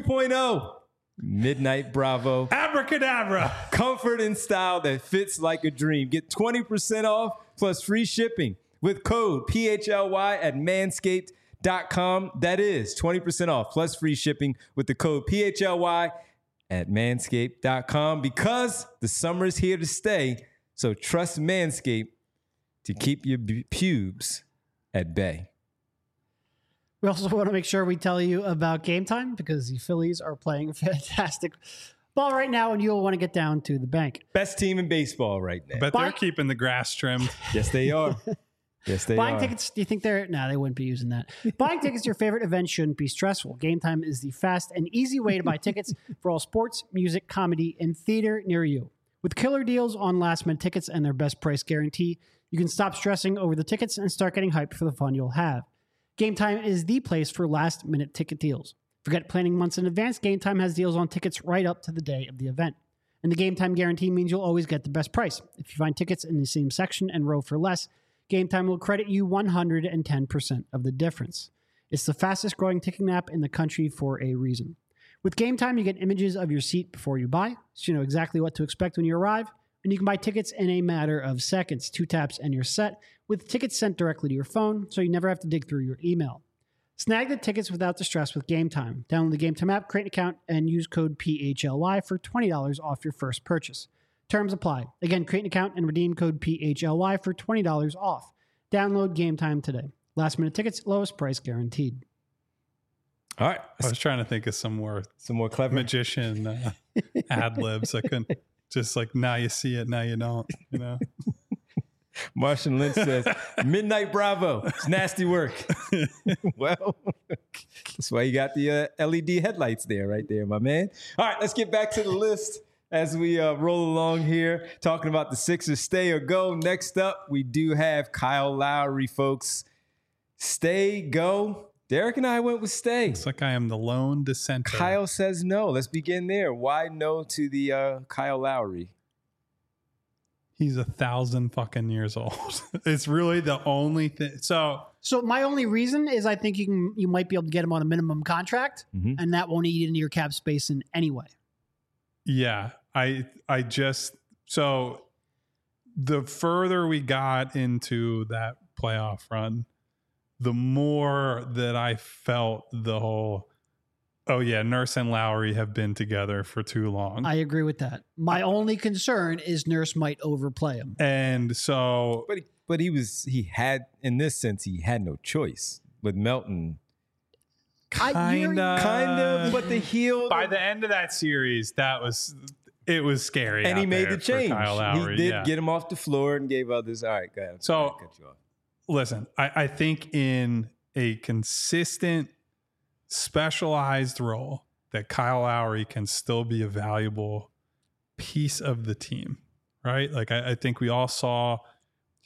2.0. Midnight Bravo. Abracadabra. Comfort and style that fits like a dream. Get 20% off plus free shipping with code PHLY at manscaped.com. That is 20% off plus free shipping with the code PHLY at manscaped.com because the summer is here to stay. So trust Manscaped to keep your pubes at bay. We also want to make sure we tell you about Game Time because the Phillies are playing fantastic ball right now, and you'll want to get down to the bank. Best team in baseball right now. But they're keeping the grass trimmed. Yes, they are. Yes, they Buying are. tickets, do you think they're... No, they wouldn't be using that. Buying tickets to your favorite event shouldn't be stressful. Game Time is the fast and easy way to buy tickets for all sports, music, comedy, and theater near you. With killer deals on last-minute tickets and their best price guarantee, you can stop stressing over the tickets and start getting hyped for the fun you'll have. Game Time is the place for last-minute ticket deals. Forget planning months in advance. Game Time has deals on tickets right up to the day of the event. And the Game Time guarantee means you'll always get the best price. If you find tickets in the same section and row for less, Game Time will credit you 110% of the difference. It's the fastest growing ticketing app in the country for a reason. With Game Time, you get images of your seat before you buy, so you know exactly what to expect when you arrive, and you can buy tickets in a matter of seconds. 2 taps and you're set, with tickets sent directly to your phone, so you never have to dig through your email. Snag the tickets without the stress with Game Time. Download the Game Time app, create an account, and use code PHLY for $20 off your first purchase. Terms apply. Again, create an account and redeem code PHLY for $20 off. Download Game Time today. Last minute tickets, lowest price guaranteed. All right. I was trying to think of some more clever magician ad libs. I couldn't just like, now you see it, now you don't, you know? Martian Lynch says, Midnight Bravo. It's nasty work. Well, that's why you got the LED headlights there, right there, my man. All right, let's get back to the list as we roll along here, talking about the Sixers stay or go. Next up, we do have Kyle Lowry, folks. Stay, go. Derek and I went with stay. It's like I am the lone dissenter. Kyle says no. Let's begin there. Why no to the Kyle Lowry? He's 1,000 fucking years old. It's really the only thing. So my only reason is I think you might be able to get him on a minimum contract, and that won't eat into your cap space in any way. Yeah, I just, so the further we got into that playoff run, the more that I felt the whole, oh yeah, Nurse and Lowry have been together for too long. I agree with that. My only concern is Nurse might overplay him. And so, but he had, in this sense, he had no choice with Melton. Kind of, but the heel. By the end of that series, it was scary. And he made the change. Kyle Lowry. He did get him off the floor and gave others. All right, go ahead. So, listen, I think in a consistent, specialized role that Kyle Lowry can still be a valuable piece of the team, right? Like I think we all saw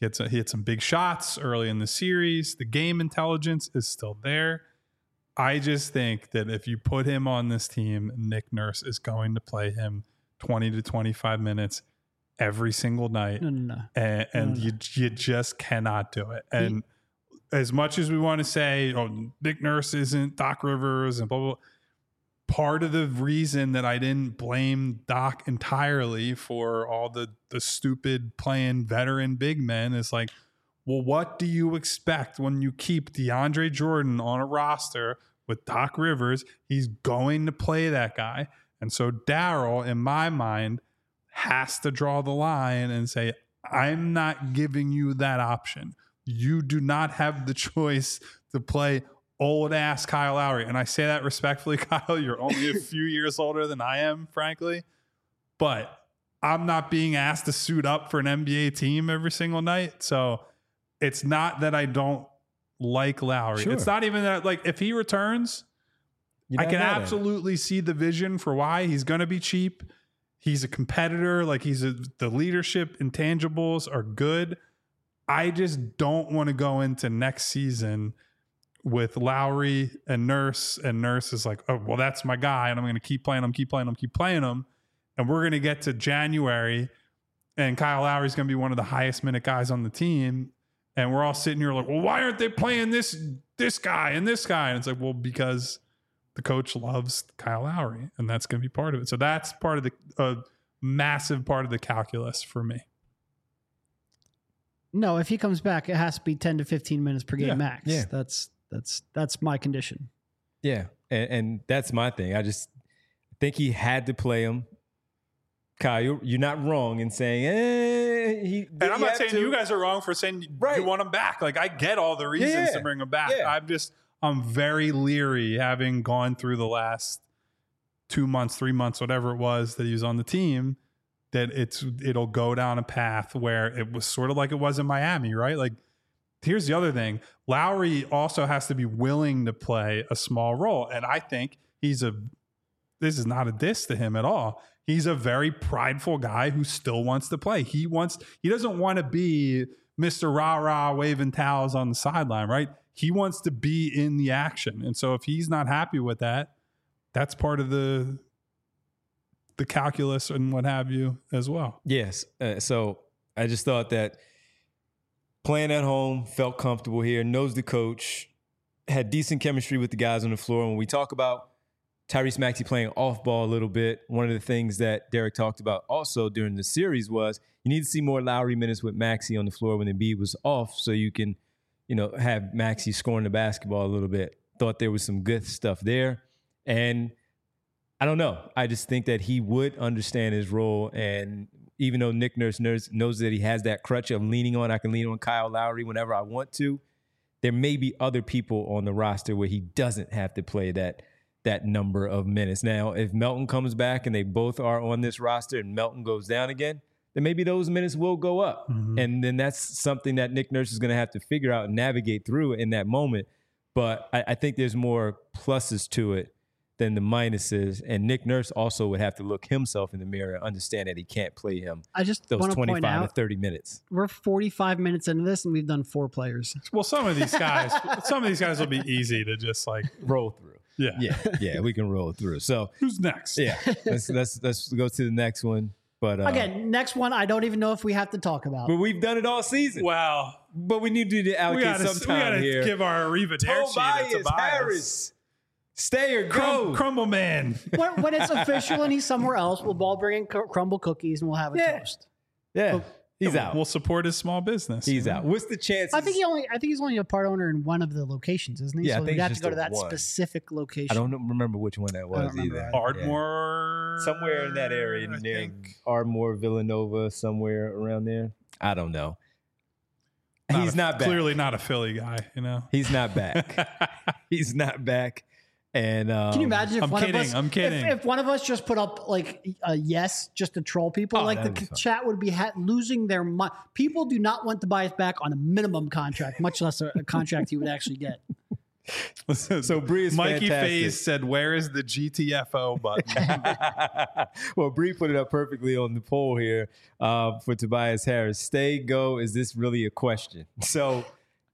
He had some big shots early in the series. The game intelligence is still there. I just think that if you put him on this team, Nick Nurse is going to play him 20 to 25 minutes every single night. No. And you just cannot do it. And as much as we want to say, oh, Nick Nurse isn't Doc Rivers and blah, blah, blah, part of the reason that I didn't blame Doc entirely for all the stupid playing veteran big men is like, well, what do you expect when you keep DeAndre Jordan on a roster with Doc Rivers? He's going to play that guy. And so Daryl, in my mind, has to draw the line and say, I'm not giving you that option. You do not have the choice to play old ass Kyle Lowry. And I say that respectfully, Kyle, you're only a few years older than I am, frankly, but I'm not being asked to suit up for an NBA team every single night. So it's not that I don't like Lowry. Sure. It's not even that, like, if he returns, I can absolutely see the vision for why he's going to be cheap. He's a competitor. Like, the leadership intangibles are good. I just don't want to go into next season with Lowry and Nurse is like, oh, well, that's my guy, and I'm going to keep playing him. And we're going to get to January, and Kyle Lowry's going to be one of the highest minute guys on the team. And we're all sitting here like, well, why aren't they playing this guy and this guy? And it's like, well, because the coach loves Kyle Lowry, and that's going to be part of it. So that's part of the massive part of the calculus for me. No, if he comes back, it has to be 10 to 15 minutes per game max. Yeah. That's my condition. Yeah, and that's my thing. I just think he had to play him. Kyle, you're not wrong in saying, and I'm not saying you guys are wrong for saying you want him back. Like, I get all the reasons to bring him back. Yeah. I'm very leery, having gone through the last 2 months, 3 months, whatever it was that he was on the team, that it'll go down a path where it was sort of like it was in Miami, right? Like, here's the other thing. Lowry also has to be willing to play a small role. And I think this is not a diss to him at all. He's a very prideful guy who still wants to play. He doesn't want to be Mr. Rah-Rah waving towels on the sideline, right? He wants to be in the action. And so if he's not happy with that, that's part of the calculus and what have you as well. Yes. So I just thought that playing at home, felt comfortable here, knows the coach, had decent chemistry with the guys on the floor. When we talk about Tyrese Maxey playing off ball a little bit, one of the things that Derek talked about also during the series was you need to see more Lowry minutes with Maxey on the floor when Embiid was off, so you can, have Maxey scoring the basketball a little bit. Thought there was some good stuff there. And I don't know. I just think that he would understand his role. And even though Nick Nurse knows that he has that crutch of leaning on, I can lean on Kyle Lowry whenever I want to, there may be other people on the roster where he doesn't have to play that number of minutes. Now, if Melton comes back and they both are on this roster and Melton goes down again, then maybe those minutes will go up. Mm-hmm. And then that's something that Nick Nurse is going to have to figure out and navigate through in that moment. But I think there's more pluses to it than the minuses. And Nick Nurse also would have to look himself in the mirror and understand that he can't play him those 25 to 30 minutes. We're 45 minutes into this and we've done 4 players. Well, some of these guys will be easy to just like roll through. Yeah, we can roll through. So who's next? Yeah, let's go to the next one. But again, next one, I don't even know if we have to talk about. But we've done it all season. Wow. But we need to allocate some time here. We got to give our arrivederci to Tobias Harris. Stay or go. Crumble man. When it's official and he's somewhere else, we'll all bring in crumble cookies and we'll have a toast. Yeah. He's out. We'll support his small business. He's out. What's the chances? I think he's only a part owner in one of the locations, isn't he? Yeah, so I think we'd have to go to that specific location. I don't remember which one that was either. Ardmore, somewhere in that area, near Ardmore, Villanova, somewhere around there. I don't know. He's not back. Clearly not a Philly guy, He's not back. He's not back. And can you imagine if I'm kidding. If one of us just put up like a yes just to troll people, the chat would be losing their mind. People do not want to buy us back on a minimum contract, much less a contract you would actually get. So Bree is Mikey fantastic. Faze said, "Where is the GTFO button?" Well, Bree put it up perfectly on the poll here for Tobias Harris. Stay, go. Is this really a question? So,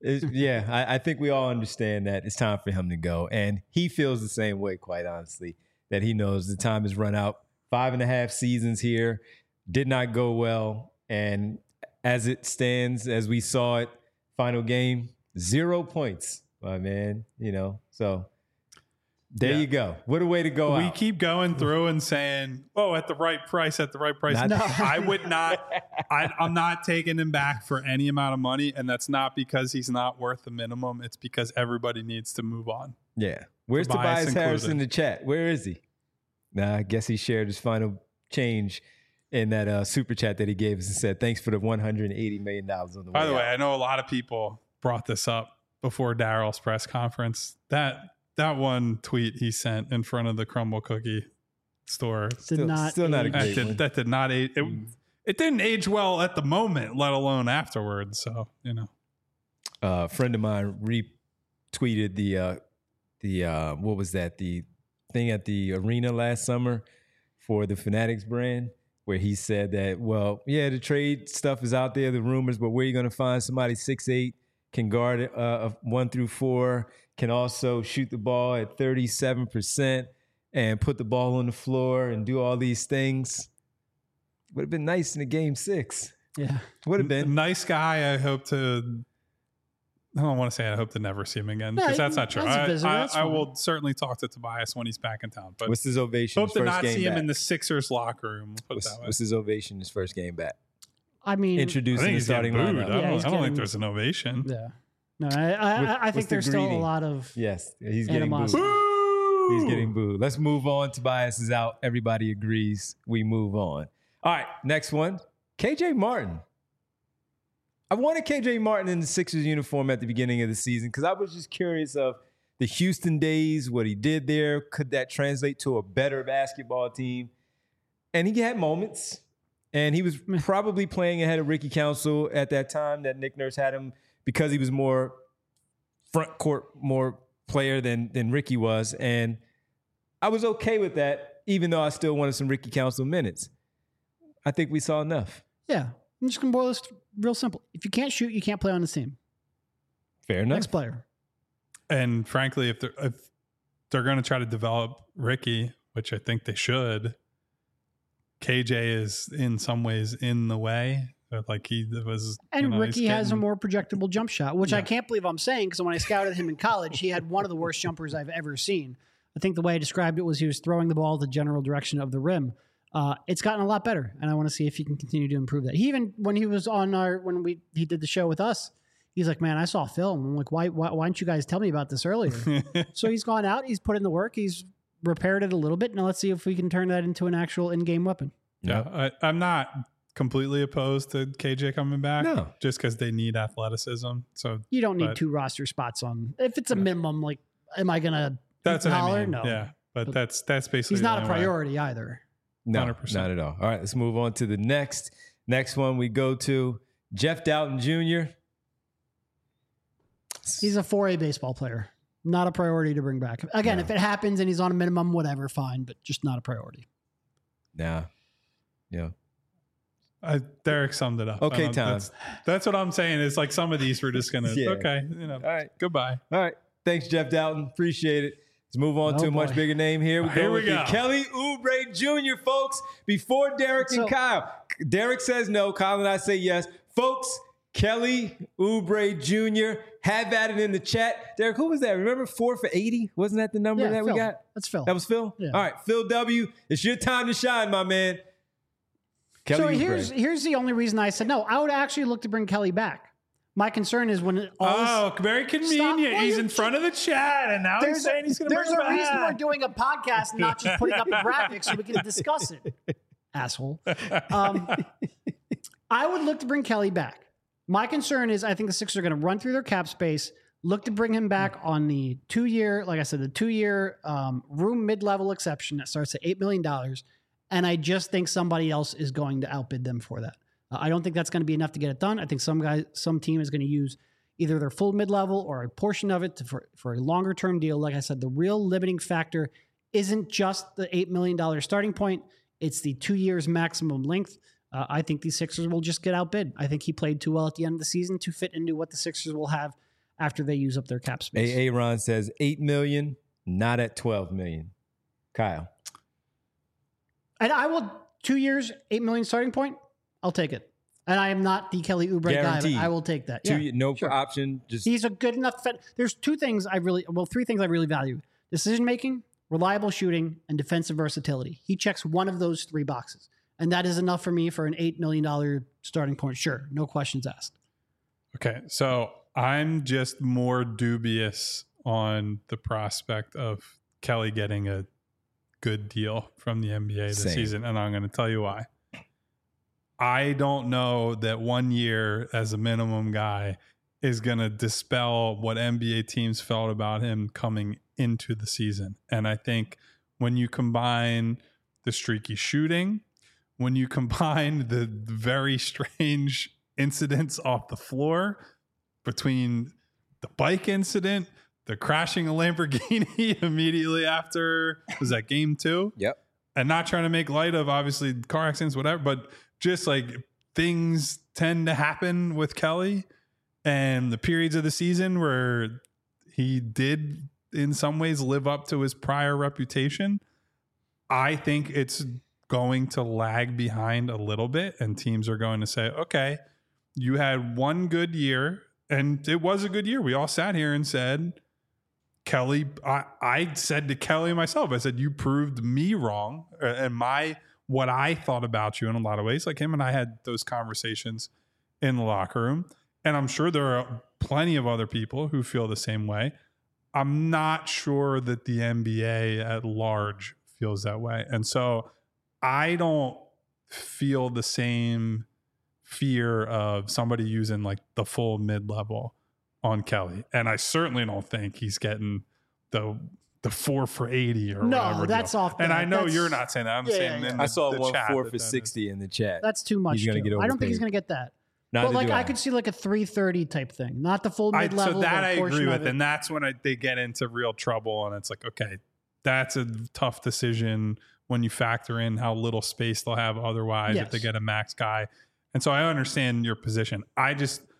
I think we all understand that it's time for him to go. And he feels the same way, quite honestly, that he knows the time has run out. 5.5 seasons here, did not go well. And as it stands, as we saw it, final game, 0 points, my man. So there you go. What a way to go We out. keep going through and saying, "Oh, at the right price, at the right price." No. I would not. I'm not taking him back for any amount of money, and that's not because he's not worth the minimum. It's because everybody needs to move on. Yeah. Where's Tobias Harris in the chat? Where is he? Nah, I guess he shared his final change in that super chat that he gave us and said, "Thanks for the $180 million on the way." By the way, out. I know a lot of people brought this up before Daryl's press conference. That one tweet he sent in front of the Crumble Cookie store Did not still not a age. great one. that did not age. It didn't age well at the moment, let alone afterwards. So A friend of mine retweeted the what was that, the thing at the arena last summer for the Fanatics brand, where he said that, well, yeah, the trade stuff is out there, the rumors, but where are you going to find somebody 6'8", can guard 1 through 4, can also shoot the ball at 37% and put the ball on the floor and do all these things? Would have been nice in the game 6. Yeah. Would have been. nice guy. I don't want to say I hope to never see him again, because that's not true. as a visitor, that's I fine. will certainly talk to Tobias when he's back in town. But What's his ovation? hope his to first not game see him back? in the Sixers locker room. Put it that way. What's his ovation? His first game back. I mean, I Introducing think the he's starting getting booed. lineup. Yeah, I he's don't think getting- there's an ovation. yeah. No, I What's think the there's still a greeting? lot of Yes, he's getting booed. animosity. He's getting booed. Let's move on. Tobias is out. Everybody agrees. We move on. All right, next one. KJ Martin. I wanted KJ Martin in the Sixers uniform at the beginning of the season because I was just curious of the Houston days, what he did there. Could that translate to a better basketball team? And he had moments. And he was probably playing ahead of Ricky Council at that time that Nick Nurse had him because he was more front court, more player than Ricky was. And I was okay with that, even though I still wanted some Ricky Council minutes. I think we saw enough. Yeah. I'm just going to boil this real simple. If you can't shoot, you can't play on this team. Fair enough. Next player. And frankly, if they're going to try to develop Ricky, which I think they should, KJ is in some ways in the way. Like he was, And Ricky has a more projectable jump shot, which I can't believe I'm saying, because when I scouted him in college, he had one of the worst jumpers I've ever seen. I think the way I described it was he was throwing the ball the general direction of the rim. It's gotten a lot better, and I want to see if he can continue to improve that. He even, when he was on he did the show with us, he's like, man, I saw film. I'm like, why didn't you guys tell me about this earlier? So he's gone out, he's put in the work, he's repaired it a little bit. Now let's see if we can turn that into an actual in-game weapon. Yeah, I'm not completely opposed to KJ coming back. No. Just because they need athleticism. So You don't need But- 2 roster spots on. If it's a minimum, like, am I going to that's what holler? I mean. No. Yeah, but that's basically He's not the a only way. priority either. No, 100%. not at all. All right, let's move on to the next one we go to. Jeff Doughton Jr. He's a 4A baseball player. Not a priority to bring back. Again, if it happens and he's on a minimum, whatever, fine, but just not a priority. Nah. Yeah. Derek summed it up. Okay, I don't- Tom. That's what I'm saying. Is like some of these we're just gonna Yeah. okay, All right. goodbye. All right. Thanks, Jeff Doughton. Appreciate it. Let's move on Oh, to a much boy. bigger name here. Here we with the go. Kelly Oubre Jr., folks, before Derek and So- Kyle. Derek says no. Kyle and I say yes. Folks, Kelly Oubre Jr., have at it in the chat. Derek, who was that? Remember 4 for 80? Wasn't that the number Yeah, that Phil. we got? That's Phil. That was Phil? Yeah. All right, Phil W., it's your time to shine, my man. Kelly So Oubre. here's the only reason I said no. I would actually look to bring Kelly back. My concern is when Oh, very convenient. Well, He's you in front of the chat, and now he's saying he's going to bring there's it a reason we're back. doing a podcast and not just putting up a graphic so we can discuss it. Asshole. I would look to bring Kelly back. My concern is I think the Sixers are going to run through their cap space, look to bring him back on the 2-year, like I said, the 2-year room mid-level exception that starts at $8 million. And I just think somebody else is going to outbid them for that. I don't think that's going to be enough to get it done. I think some team is going to use either their full mid-level or a portion of it for a longer-term deal. Like I said, the real limiting factor isn't just the $8 million starting point. It's the 2 years maximum length. I think these Sixers will just get outbid. I think he played too well at the end of the season to fit into what the Sixers will have after they use up their cap space. Aaron says $8 million, not at $12 million. Kyle. And I will, 2 years, $8 million starting point, I'll take it. And I am not the Kelly Oubre guy, but I will take that. No option. Just he's a good enough fit. There's three things I really value: decision making, reliable shooting, and defensive versatility. He checks one of those three boxes. And that is enough for me for an $8 million starting point. Sure. No questions asked. Okay. So I'm just more dubious on the prospect of Kelly getting a good deal from the NBA this season. And I'm going to tell you why. I don't know that 1 year as a minimum guy is going to dispel what NBA teams felt about him coming into the season. And I think when you combine the streaky shooting, when you combine the very strange incidents off the floor between the bike incident, the crashing a Lamborghini immediately after, was that game 2? Yep. And not trying to make light of obviously car accidents, whatever, but just like things tend to happen with Kelly, and the periods of the season where he did in some ways live up to his prior reputation, I think it's going to lag behind a little bit, and teams are going to say, okay, you had one good year, and it was a good year. We all sat here and said, Kelly, I said to Kelly myself, I said, you proved me wrong, and what I thought about you in a lot of ways. Like him and I had those conversations in the locker room, and I'm sure there are plenty of other people who feel the same way. I'm not sure that the NBA at large feels that way. And so I don't feel the same fear of somebody using like the full mid-level on Kelly. And I certainly don't think he's getting the 4 for 80 or whatever. No, that's off. And I know you're not saying that. I'm saying I saw the one chat 4 for 60 in the chat. That's too much. He's gonna get I don't think he's overpaid. going to get that. Neither But like do I could see like a 330 type thing, not the full mid-level. So that I agree with. It. And that's when they get into real trouble. And it's like, okay, that's a tough decision when you factor in how little space they'll have otherwise if they get a max guy. And so I understand your position. I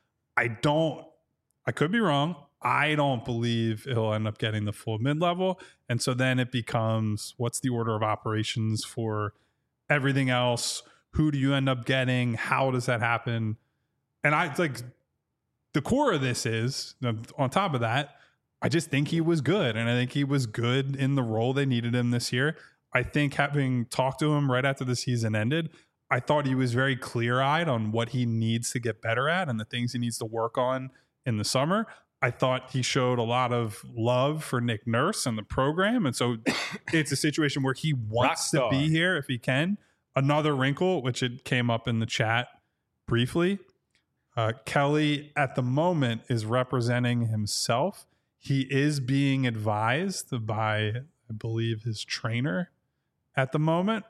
could be wrong. I don't believe he'll end up getting the full mid-level. And so then it becomes, what's the order of operations for everything else? Who do you end up getting? How does that happen? And the core of this is, on top of that, I just think he was good. And I think he was good in the role they needed him this year. I think having talked to him right after the season ended, I thought he was very clear-eyed on what he needs to get better at and the things he needs to work on in the summer. I thought he showed a lot of love for Nick Nurse and the program. And so it's a situation where he wants to be here if he can. Another wrinkle, which it came up in the chat briefly, Kelly at the moment is representing himself. He is being advised by, I believe, his trainer at the moment,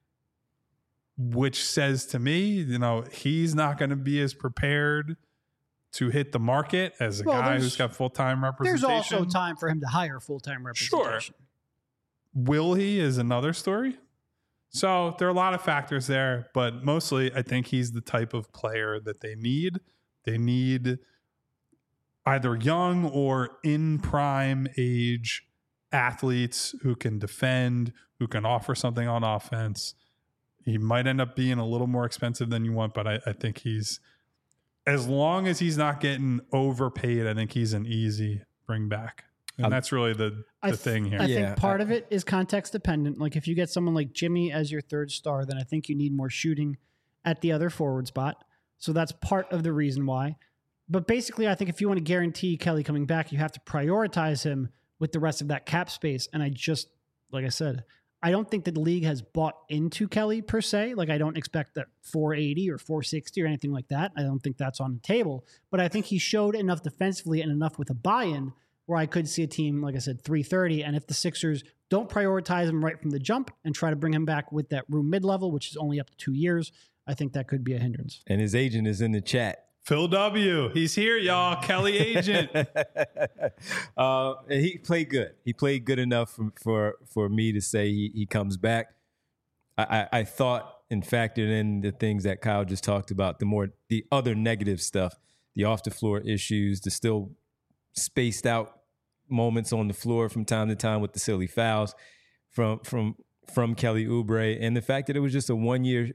which says to me, he's not going to be as prepared to hit the market as a guy who's got full-time representation. There's also time for him to hire full-time representation. Sure. Will he is another story. So there are a lot of factors there, but mostly I think he's the type of player that they need. They need either young or in prime age athletes who can defend, who can offer something on offense. He might end up being a little more expensive than you want, but I think he's, as long as he's not getting overpaid, I think he's an easy bring back. And that's really the thing here. I think part of it is context dependent. Like if you get someone like Jimmy as your third star, then I think you need more shooting at the other forward spot. So that's part of the reason why. But basically, I think if you want to guarantee Kelly coming back, you have to prioritize him with the rest of that cap space. And like I said, I don't think that the league has bought into Kelly per se. Like I don't expect that 480 or 460 or anything like that. I don't think that's on the table. But I think he showed enough defensively and enough with a buy-in where I could see a team, like I said, 330. And if the Sixers don't prioritize him right from the jump and try to bring him back with that room mid-level, which is only up to 2 years, I think that could be a hindrance. And his agent is in the chat. Phil W. He's here, y'all. Kelly Agent. And he played good. He played good enough for me to say he comes back. I thought and factored in the things that Kyle just talked about, the other negative stuff, the off the floor issues, the still spaced out moments on the floor from time to time with the silly fouls from Kelly Oubre, and the fact that it was just a one year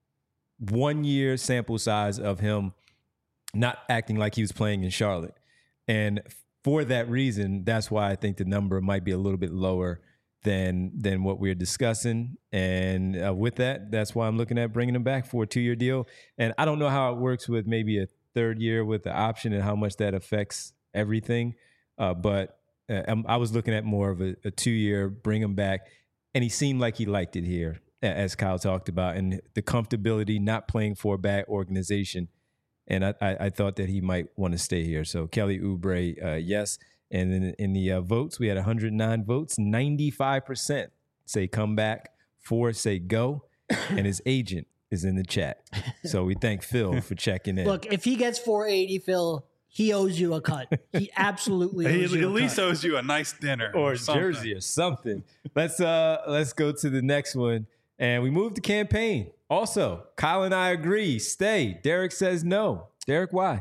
sample size of him not acting like he was playing in Charlotte. And for that reason, that's why I think the number might be a little bit lower than what we're discussing. And with that, that's why I'm looking at bringing him back for a 2-year deal. And I don't know how it works with maybe a third year with the option and how much that affects everything. But I was looking at more of a 2-year, bring him back. And he seemed like he liked it here, as Kyle talked about, and the comfortability not playing for a bad organization. And I thought that he might want to stay here. So Kelly Oubre, yes. And then in the votes, we had 109 votes. 95% say come back, 4 say go, and his agent is in the chat. So we thank Phil for checking in. Look, if he gets 480, Phil, he owes you a cut. He absolutely owes you at least owes you a nice dinner or a jersey or something. Let's go to the next one. And we moved to campaign. Also, Kyle and I agree. Stay. Derek says no. Derek, why?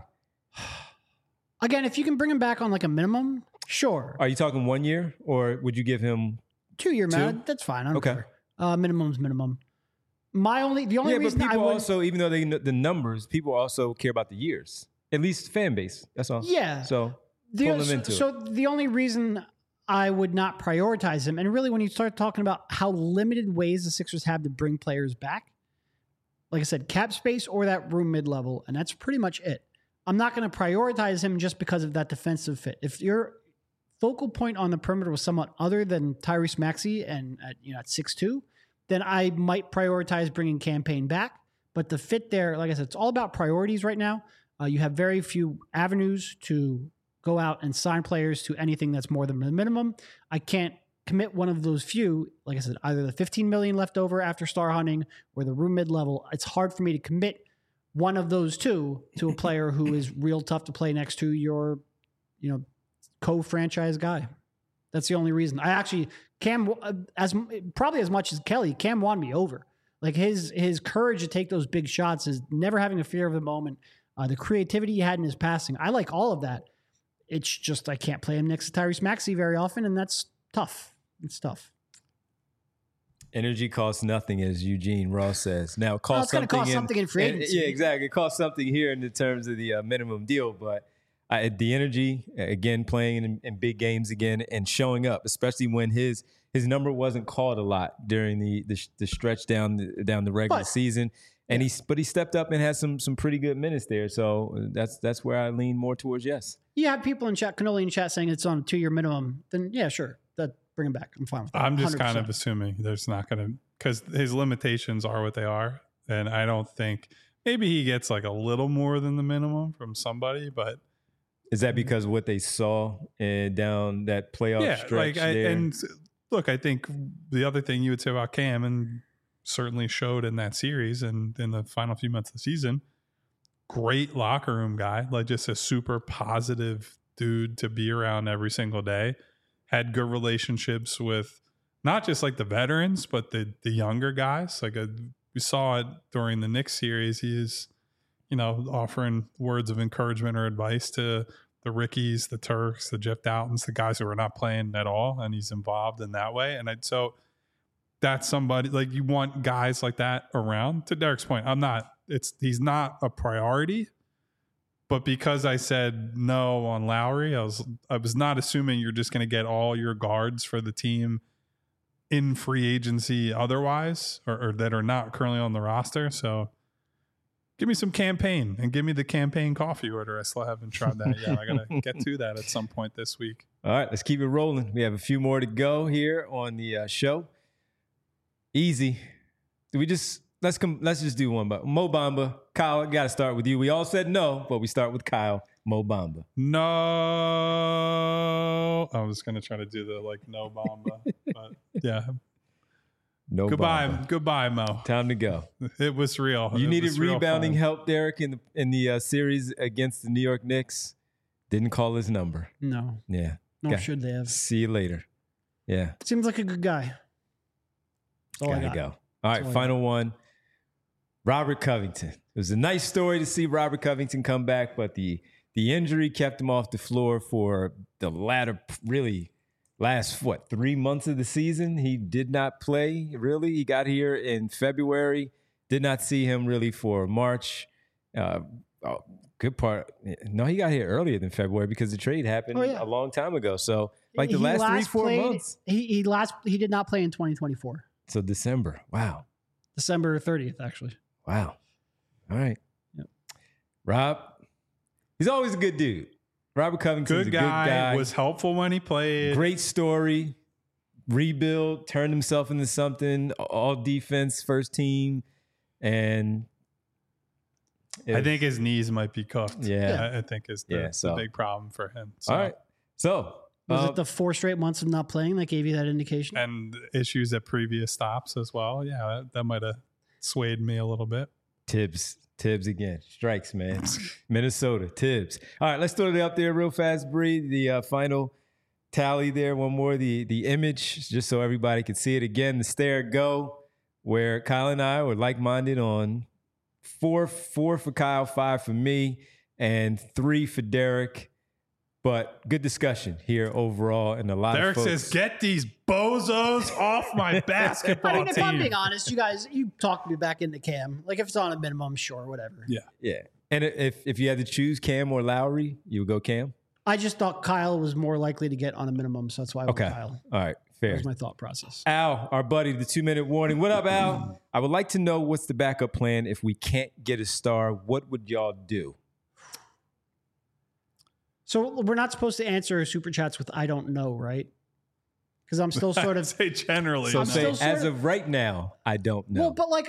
Again, if you can bring him back on like a minimum, sure. Are you talking 1 year, or would you give him 2-year, man? That's fine. I don't care. Minimum's minimum. The only reason but people I would also, even though they know the numbers, people also care about the years. At least fan base. That's all. Yeah. So pull them into it. So the only reason I would not prioritize him, and really when you start talking about how limited ways the Sixers have to bring players back, like I said, cap space or that room mid-level, and that's pretty much it. I'm not going to prioritize him just because of that defensive fit. If your focal point on the perimeter was somewhat other than Tyrese Maxey and at 6'2", then I might prioritize bringing Campaign back. But the fit there, like I said, it's all about priorities right now. You have very few avenues to go out and sign players to anything that's more than the minimum. I can't commit one of those few, like I said, either the $15 million left over after star hunting or the room mid-level. It's hard for me to commit one of those two to a player who is real tough to play next to your, co-franchise guy. That's the only reason. I actually, Cam, probably as much as Kelly, Cam won me over. Like his courage to take those big shots, is never having a fear of the moment. The creativity he had in his passing, I like all of that. It's just I can't play him next to Tyrese Maxey very often, and that's tough. It's tough. Energy costs nothing, as Eugene Ross says. Now, it costs going to cost something in free agency. Yeah, exactly. It costs something here in the terms of the minimum deal, but the energy, again, playing in big games again and showing up, especially when his number wasn't called a lot during the stretch down the regular season. And he stepped up and had some pretty good minutes there. So that's where I lean more towards yes. You have people in chat, Cannoli in chat, saying it's on a 2-year minimum. Then yeah, sure, bring him back. I'm fine with that. I'm just 100%. kind of assuming there's not going to, because his limitations are what they are, and I don't think maybe he gets like a little more than the minimum from somebody, but is that because of what they saw down that playoff stretch? And look, I think the other thing you would say about Cam, and certainly showed in that series and in the final few months of the season, great locker room guy, like just a super positive dude to be around every single day. Had good relationships with not just like the veterans, but the younger guys. Like we saw it during the Knicks series. He is, offering words of encouragement or advice to the Rickies, the Turks, the Jeff Doughtons, the guys who are not playing at all. And he's involved in that way. And so that's somebody, like, you want guys like that around. To Derek's point, he's not a priority, but because I said no on Lowry, I was not assuming you're just going to get all your guards for the team in free agency otherwise, or that are not currently on the roster. So give me some Campaign and give me the Campaign coffee order. I still haven't tried that yet. I got to get to that at some point this week. All right, let's keep it rolling. We have a few more to go here on the show. Easy. Let's just do one. But Mo Bamba, Kyle, I got to start with you. We all said no, but we start with Kyle. Mo Bamba. No. I was going to try to do the no Bamba, but yeah. No Bamba. Goodbye, Mo. Time to go. It was real. You It needed was real rebounding fun. help, Derek, in the series against the New York Knicks. Didn't call his number. No, Yeah. nor Okay. should they have. See you later. Yeah. Seems like a good guy. That's all I Gotta got. go. All right, all I final one. Robert Covington. It was a nice story to see Robert Covington come back, but the injury kept him off the floor for the last 3 months of the season. He did not play, really. He got here in February. Did not see him really for March. Good part. No, he got here earlier than February because the trade happened a long time ago. So like the last 3-4 months. He did not play in 2024. So December. Wow. December 30th, actually. Wow. All right. Yep. Rob, he's always a good dude. Robert Covington's Good a good guy. was helpful when he played. Great story. Rebuild, turned himself into something. All defense, first team. And I think his knees might be cooked. Yeah. I think is the big problem for him. So, all right. So Was it the 4 straight months of not playing that gave you that indication? and issues at previous stops as well. Yeah, that might have swayed me a little bit. Tibbs again. Strikes, man. Minnesota, Tibbs. All right, let's throw it up there real fast, Bree. The final tally there. One more. The image, just so everybody could see it again. The stare go, where Kyle and I were like-minded on 4 for Kyle, 5 for me, and 3 for Derek. But good discussion here overall, and a lot Derek of folks. says, "Get these bozos off my basketball I mean, if I'm team." being honest, you talked me back into Cam. Like if it's on a minimum, sure, whatever. Yeah. And if you had to choose Cam or Lowry, you would go Cam? I just thought Kyle was more likely to get on a minimum, so that's why I went Okay. Kyle. All right. That Fair. was my thought process. Al, our buddy, the 2-minute warning. What up, Al? I would like to know what's the backup plan if we can't get a star. What would y'all do? So we're not supposed to answer super chats with "I don't know," right? Because I'm still sort I'd of say generally. So I'm no. say, still sort as of- of right now, I don't know. well, but like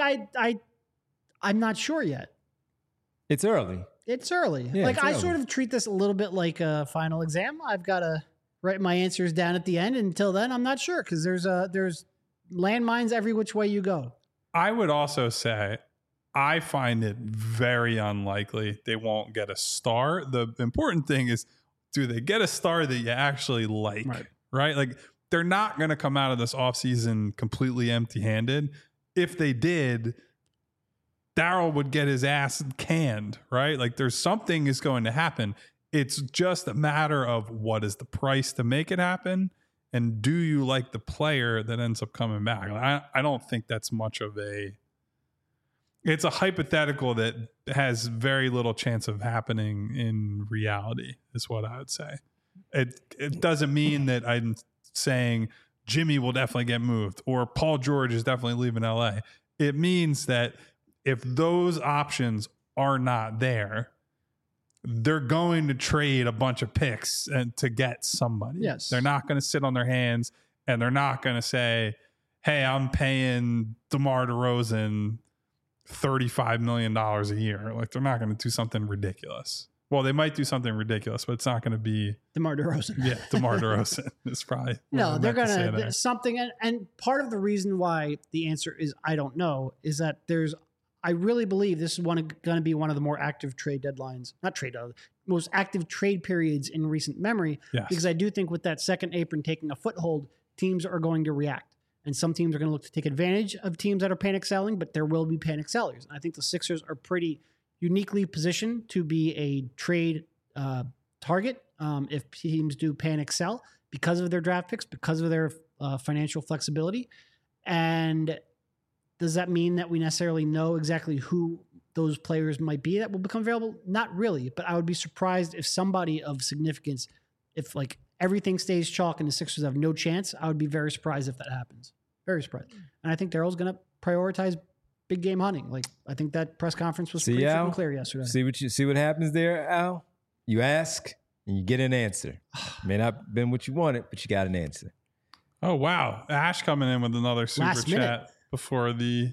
I'm not sure yet. It's early. It's early. Yeah, like it's I early. sort of treat this a little bit like a final exam. I've got to write my answers down at the end. Until then, I'm not sure because there's landmines every which way you go. I would also say I find it very unlikely they won't get a star. The important thing is, do they get a star that you actually like? Right? Like they're not going to come out of this offseason completely empty-handed. If they did, Daryl would get his ass canned, right? Like there's something is going to happen. It's just a matter of what is the price to make it happen, and do you like the player that ends up coming back? I don't think that's much of a. It's a hypothetical that has very little chance of happening in reality, is what I would say. It doesn't mean that I'm saying Jimmy will definitely get moved or Paul George is definitely leaving LA. It means that if those options are not there, they're going to trade a bunch of picks and to get somebody. Yes. They're not going to sit on their hands, and they're not going to say, hey, I'm paying DeMar DeRozan $35 million a year. Like they're not going to do something ridiculous. Well, they might do something ridiculous, but it's not going to be DeMar DeRozan. Yeah, DeMar DeRozan is probably what No, I they're meant to say gonna there. something, and part of the reason why the answer is I don't know is that I really believe this is going to be one of the more active trade deadlines, most active trade periods in recent memory. Yes. Because I do think with that second apron taking a foothold, teams are going to react, and some teams are going to look to take advantage of teams that are panic selling, but there will be panic sellers. And I think the Sixers are pretty uniquely positioned to be a trade target if teams do panic sell because of their draft picks, because of their financial flexibility. And does that mean that we necessarily know exactly who those players might be that will become available? Not really, but I would be surprised if somebody of significance, if like everything stays chalk and the Sixers have no chance, I would be very surprised if that happens. Very surprised. And I think Daryl's going to prioritize big game hunting. Like I think that press conference was pretty freaking clear yesterday. See what happens there, Al? You ask and you get an answer. May not have been what you wanted, but you got an answer. Oh wow, Ash coming in with another super Last chat minute. before the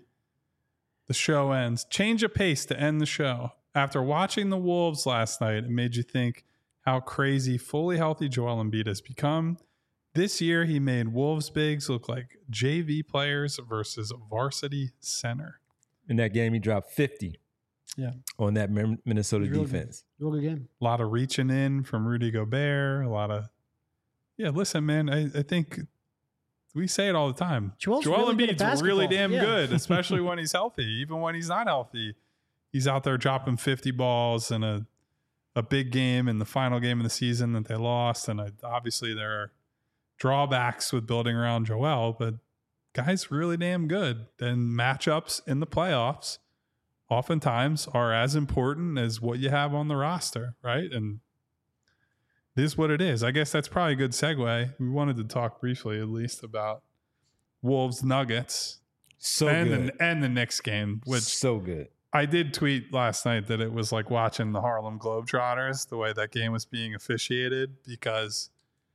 show ends. Change of pace to end the show. After watching the Wolves last night, it made you think how crazy fully healthy Joel Embiid has become. This year, he made Wolves bigs look like JV players versus varsity center. In that game, he dropped 50 on that Minnesota defense. Real good game. A lot of reaching in from Rudy Gobert. A lot of, listen, man, I think we say it all the time. Joel Embiid's really damn good, especially when he's healthy. Even when he's not healthy, he's out there dropping 50 balls in a big game in the final game of the season that they lost. And obviously there are drawbacks with building around Joel, but guy's really damn good. Then matchups in the playoffs oftentimes are as important as what you have on the roster, right? And this is what it is. I guess that's probably a good segue. We wanted to talk briefly, at least, about Wolves Nuggets. Good. And the Knicks game, which so good. I did tweet last night that it was like watching the Harlem Globetrotters, the way that game was being officiated, because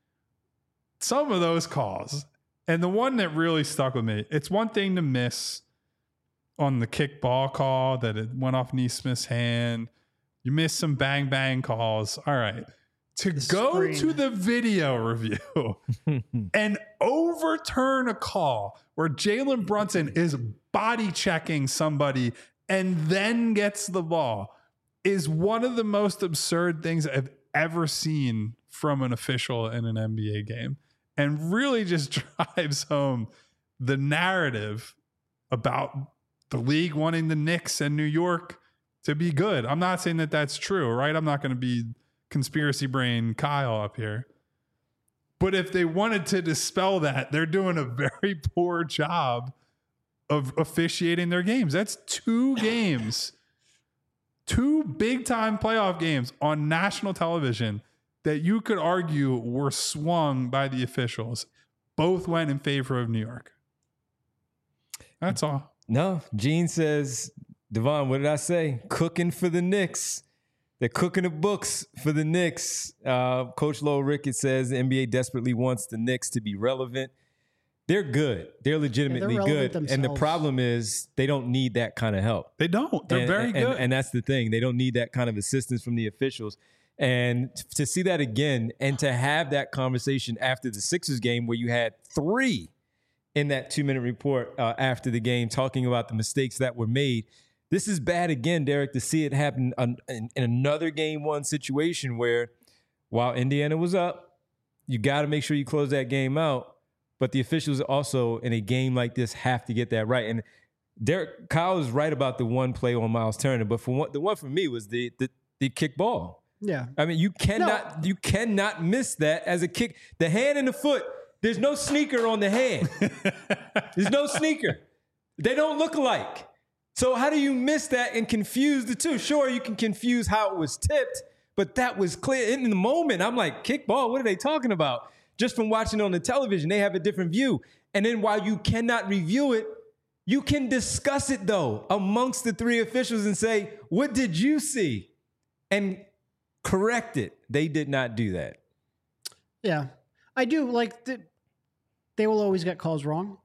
some of those calls, and the one that really stuck with me, it's one thing to miss on the kick ball call that it went off Neesmith's hand. You miss some bang bang calls. All right. To go to the video review and overturn a call where Jalen Brunson is body checking somebody and then gets the ball is one of the most absurd things I've ever seen from an official in an NBA game, and really just drives home the narrative about the league wanting the Knicks and New York to be good. I'm not saying that that's true, right? I'm not going to be conspiracy brain Kyle up here. But if they wanted to dispel that, they're doing a very poor job of officiating their games. That's 2 games, 2 big-time playoff games on national television that you could argue were swung by the officials. Both went in favor of New York. That's all. No, Gene says, Devon, what did I say? Cooking for the Knicks. They're cooking the books for the Knicks. Coach Low Ricketts says the NBA desperately wants the Knicks to be relevant. They're good. They're legitimately good. Themselves. And the problem is they don't need that kind of help. They don't. They're very good. And that's the thing. They don't need that kind of assistance from the officials. And to see that again and to have that conversation after the Sixers game where you had 3 in that 2-minute report after the game talking about the mistakes that were made. This is bad again, Derek, to see it happen in another game 1 situation where while Indiana was up, you got to make sure you close that game out. But the officials also in a game like this have to get that right. And Derek, Kyle is right about the one play on Miles Turner, but the one for me was the kick ball. Yeah. I mean, you cannot miss that as a kick. The hand and the foot, there's no sneaker on the hand. There's no sneaker. They don't look alike. So how do you miss that and confuse the two? Sure, you can confuse how it was tipped, but that was clear. In the moment, I'm like, kickball, what are they talking about? Just from watching on the television, they have a different view. And then while you cannot review it, you can discuss it, though, amongst the 3 officials and say, what did you see? And correct it. They did not do that. Yeah. I do like they will always get calls wrong.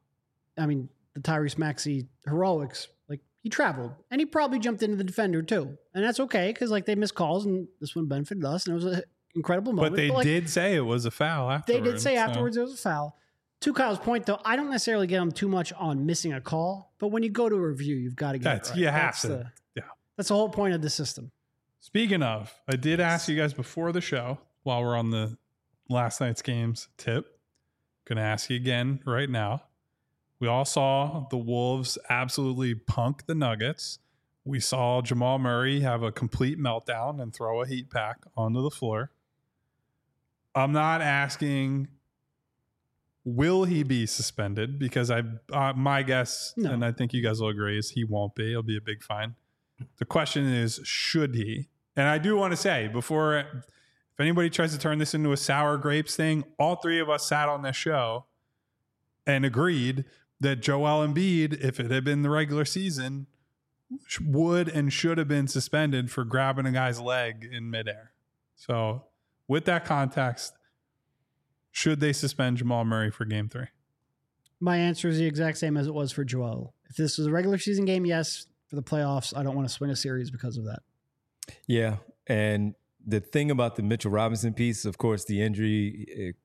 I mean, the Tyrese Maxey heroics, like he traveled and he probably jumped into the defender too. And that's okay because like they missed calls and this one benefited us and it was an incredible moment. But they did say it was a foul afterwards. They did say afterwards it was a foul. To Kyle's point though, I don't necessarily get them too much on missing a call, but when you go to a review, you've got to get it right. You have to. That's the whole point of the system. Speaking of, I did ask you guys before the show while we're on the last night's games tip. Going to ask you again right now. We all saw the Wolves absolutely punk the Nuggets. We saw Jamal Murray have a complete meltdown and throw a heat pack onto the floor. I'm not asking, will he be suspended? Because my guess, and I think you guys will agree, is he won't be. It'll be a big fine. The question is, should he? And I do want to say, before, if anybody tries to turn this into a sour grapes thing, all 3 of us sat on this show and agreed that Joel Embiid, if it had been the regular season, would and should have been suspended for grabbing a guy's leg in midair. So with that context, should they suspend Jamal Murray for game 3? My answer is the exact same as it was for Joel. If this was a regular season game, yes. For the playoffs, I don't want to swing a series because of that. Yeah. And the thing about the Mitchell Robinson piece, of course, the injury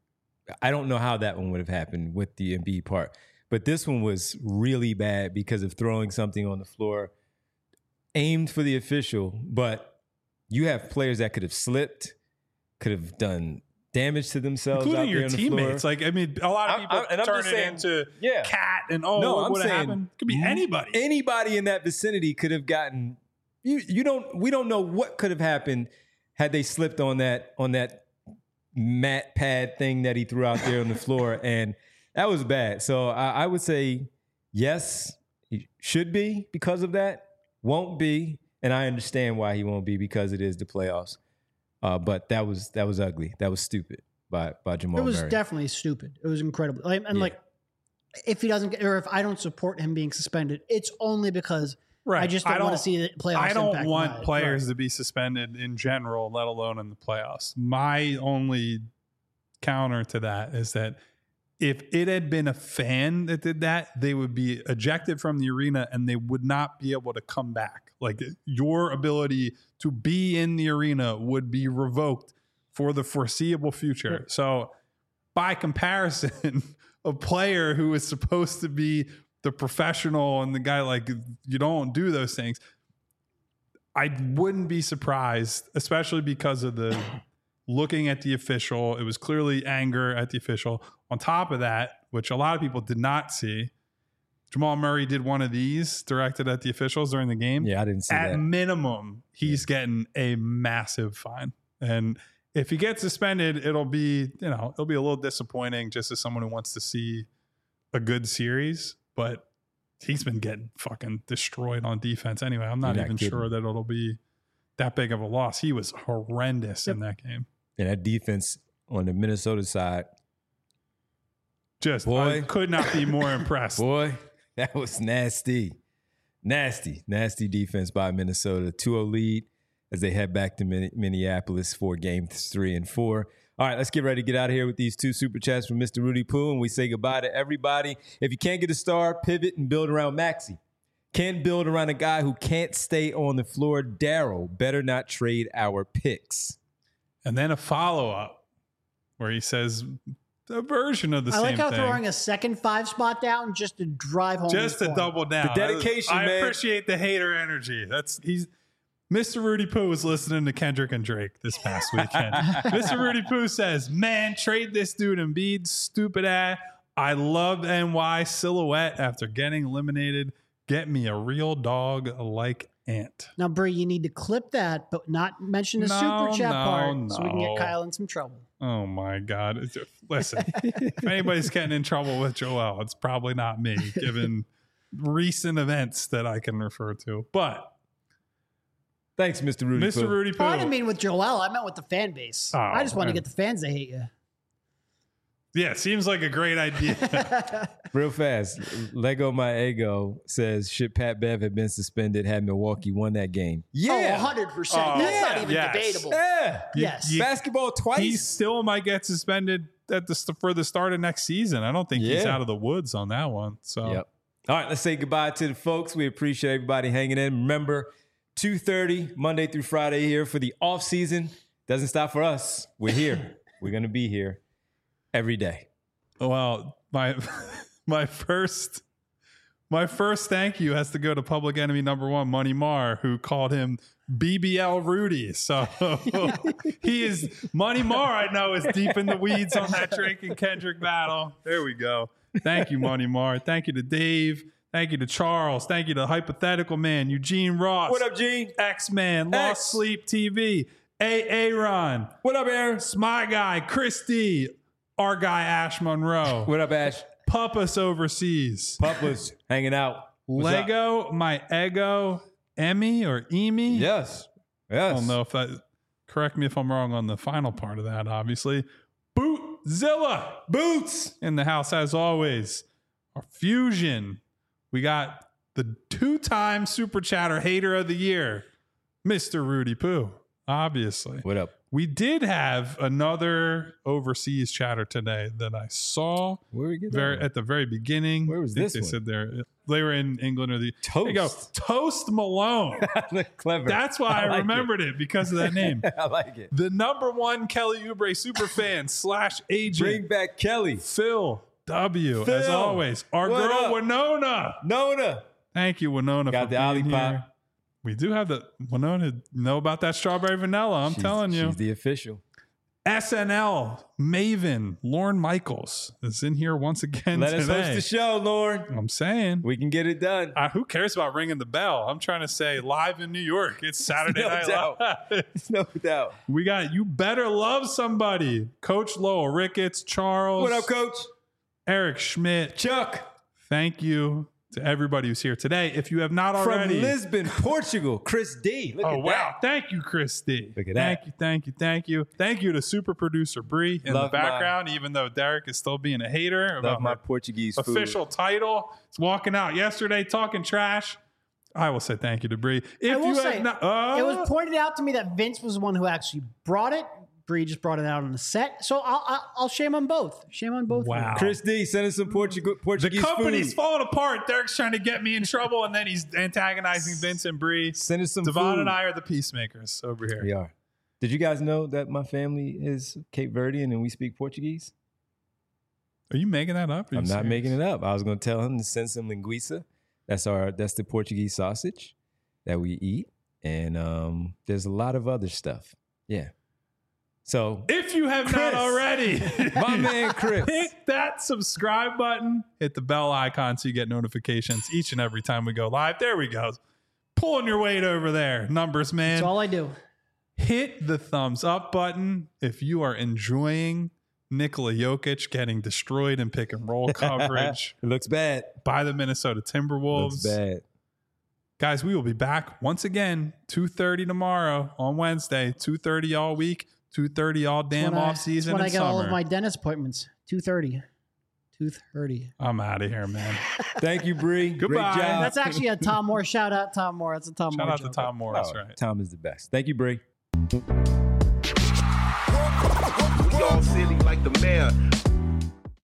I don't know how that one would have happened with the Embiid part. But this one was really bad because of throwing something on the floor aimed for the official, but you have players that could have slipped, could have done damage to themselves, including out there your on the teammates. floor. Like, I mean, a lot of people turn it into cat and what would have happened? It could be anybody. Anybody in that vicinity could have gotten. We don't know what could have happened had they slipped on that mat pad thing that he threw out there on the floor, and that was bad. So I would say yes, he should be because of that. Won't be, and I understand why he won't be because it is the playoffs. But that was ugly. That was stupid by Jamal Murray. It was definitely stupid. It was incredible. Like if he doesn't get, or if I don't support him being suspended, it's only because I just don't want to see the playoffs. I don't want players to be suspended in general, let alone in the playoffs. My only counter to that is that if it had been a fan that did that, they would be ejected from the arena and they would not be able to come back. Like, your ability to be in the arena would be revoked for the foreseeable future. So by comparison, a player who is supposed to be the professional and the guy, like, you don't do those things, I wouldn't be surprised, especially because of the looking at the official. It was clearly anger at the official. On top of that, which a lot of people did not see, Jamal Murray did one of these directed at the officials during the game. Yeah, I didn't see that. At minimum, he's getting a massive fine. And if he gets suspended, it'll be a little disappointing just as someone who wants to see a good series. But he's been getting fucking destroyed on defense anyway. I'm not even sure that it'll be that big of a loss. He was horrendous in that game. And that defense on the Minnesota side, I could not be more impressed. Boy, that was nasty. Nasty defense by Minnesota. 2-0 lead as they head back to Minneapolis for games 3 and 4. All right, let's get ready to get out of here with these 2 super chats from Mr. Rudy Poo, and we say goodbye to everybody. If you can't get a star, pivot and build around Maxey. Can't build around a guy who can't stay on the floor. Daryl, better not trade our picks. And then a follow-up where he says a version of the same thing. I like how throwing a second 5 spot down just to drive home. Just to double down. The dedication, man. I appreciate the hater energy. Mr. Rudy Poo was listening to Kendrick and Drake this past weekend. Mr. Rudy Poo says, man, trade this dude Embiid, stupid ass. I love NY silhouette after getting eliminated. Get me a real dog like Ant. Now, Bree, you need to clip that, but not mention the super chat part so we can get Kyle in some trouble. Oh, my God. Listen, if anybody's getting in trouble with Joel, it's probably not me, given recent events that I can refer to. But thanks, Mr. Rudy Poo. Mr. Rudy Poo. I didn't mean with Joel. I meant with the fan base. I just want to get the fans to hate you. Yeah, seems like a great idea. Real fast. Lego My Ego says, should Pat Bev have been suspended had Milwaukee won that game? Yeah. 100%. That's not even debatable. Yeah. Yes. Basketball twice. He still might get suspended for the start of next season. I don't think he's out of the woods on that one. So. Yep. All right, let's say goodbye to the folks. We appreciate everybody hanging in. Remember, 2:30 Monday through Friday here for the off season. Doesn't stop for us. We're here. We're going to be here every day. Well, my first thank you has to go to public enemy number 1, Money Marr, who called him BBL Rudy. So he is Money Marr. I know is deep in the weeds on that Drake and Kendrick battle. There we go. Thank you, Money Marr. Thank you to Dave. Thank you to Charles. Thank you to Hypothetical Man, Eugene Ross. What up, Gene? X-Man, Lost Sleep TV, Aaron. What up, Aaron? Smy Guy, Christy, our guy Ash Monroe. What up, Ash? Puppus overseas. Puppus hanging out. Lego, my ego, Emmy or Emi. Yes. I don't know if that, correct me if I'm wrong on the final part of that, obviously. Bootzilla. Boots in the house as always. Our Fusion. We got the 2-time Super Chatter Hater of the Year, Mr. Rudy Poo, obviously. What up? We did have another overseas chatter today that I saw Where we get that? at the very beginning. Where was I think this they one? said they were in England or the Toast. There you go. Toast Malone. Clever. That's why I like remembered it because of that name. I like it. The #1 Kelly Oubre superfan / agent. Bring back Kelly. Phil W. As Phil, always. Our what girl up? Winona. Nona. Thank you, Winona. Got for the being Olipop. here. We do have the Winona know about that strawberry vanilla. I'm telling you. She's the official. SNL Maven Lorne Michaels is in here once again Let today. us host the show, Lauren. I'm saying. We can get it done. Who cares about ringing the bell? I'm trying to say live in New York. It's Saturday No Night doubt. Live. There's no doubt. We got You Better Love Somebody. Coach Lowell Ricketts, Charles. What up, Coach? Eric Schmidt. Chuck. Thank you to everybody who's here today. If you have not already. From Lisbon, Portugal, Chris D. Look Oh, at wow. that. Thank you, Christy. Look at Thank that. you, thank you, thank you. Thank you to super producer Bree in Love the background, even though Derek is still being a hater Love about my my Portuguese food. official title. It's walking out yesterday talking trash. I will say thank you to Bree. If I will you say, have not, it was pointed out to me that Vince was the one who actually brought it. Bree just brought it out on the set. So I'll shame on both. Shame on both. Wow. Chris D, send us some Portuguese the company's food. falling apart. Derek's trying to get me in trouble, and then he's antagonizing Vince and Bree. Send us some Devon food. and I are the peacemakers over here. We are. Did you guys know that my family is Cape Verdean and we speak Portuguese? Are you making that up? I'm not making it up. I was going to tell him to send some linguiça. That's the Portuguese sausage that we eat. And there's a lot of other stuff. Yeah. So If you have not Chris. already, my man Chris. hit that subscribe button, hit the bell icon so you get notifications each and every time we go live. There we go. Pulling your weight over there, numbers man. That's all I do. Hit the thumbs up button if you are enjoying Nikola Jokic getting destroyed in pick and roll coverage It looks bad. by the Minnesota Timberwolves. Looks bad. Guys, we will be back once again, 2:30 tomorrow on Wednesday, 2:30 all week, 2:30 all damn off season When and I get summer. all of my dentist appointments. 2:30. 2:30. I'm out of here, man. Thank you, Bree. Goodbye. Great job. That's actually a Tom Moore. Shout out Tom Moore. That's a Tom Shout Moore out to joke. Tom Morris, Oh, right? Tom is the best. Thank you, Bree. We all silly like the mayor.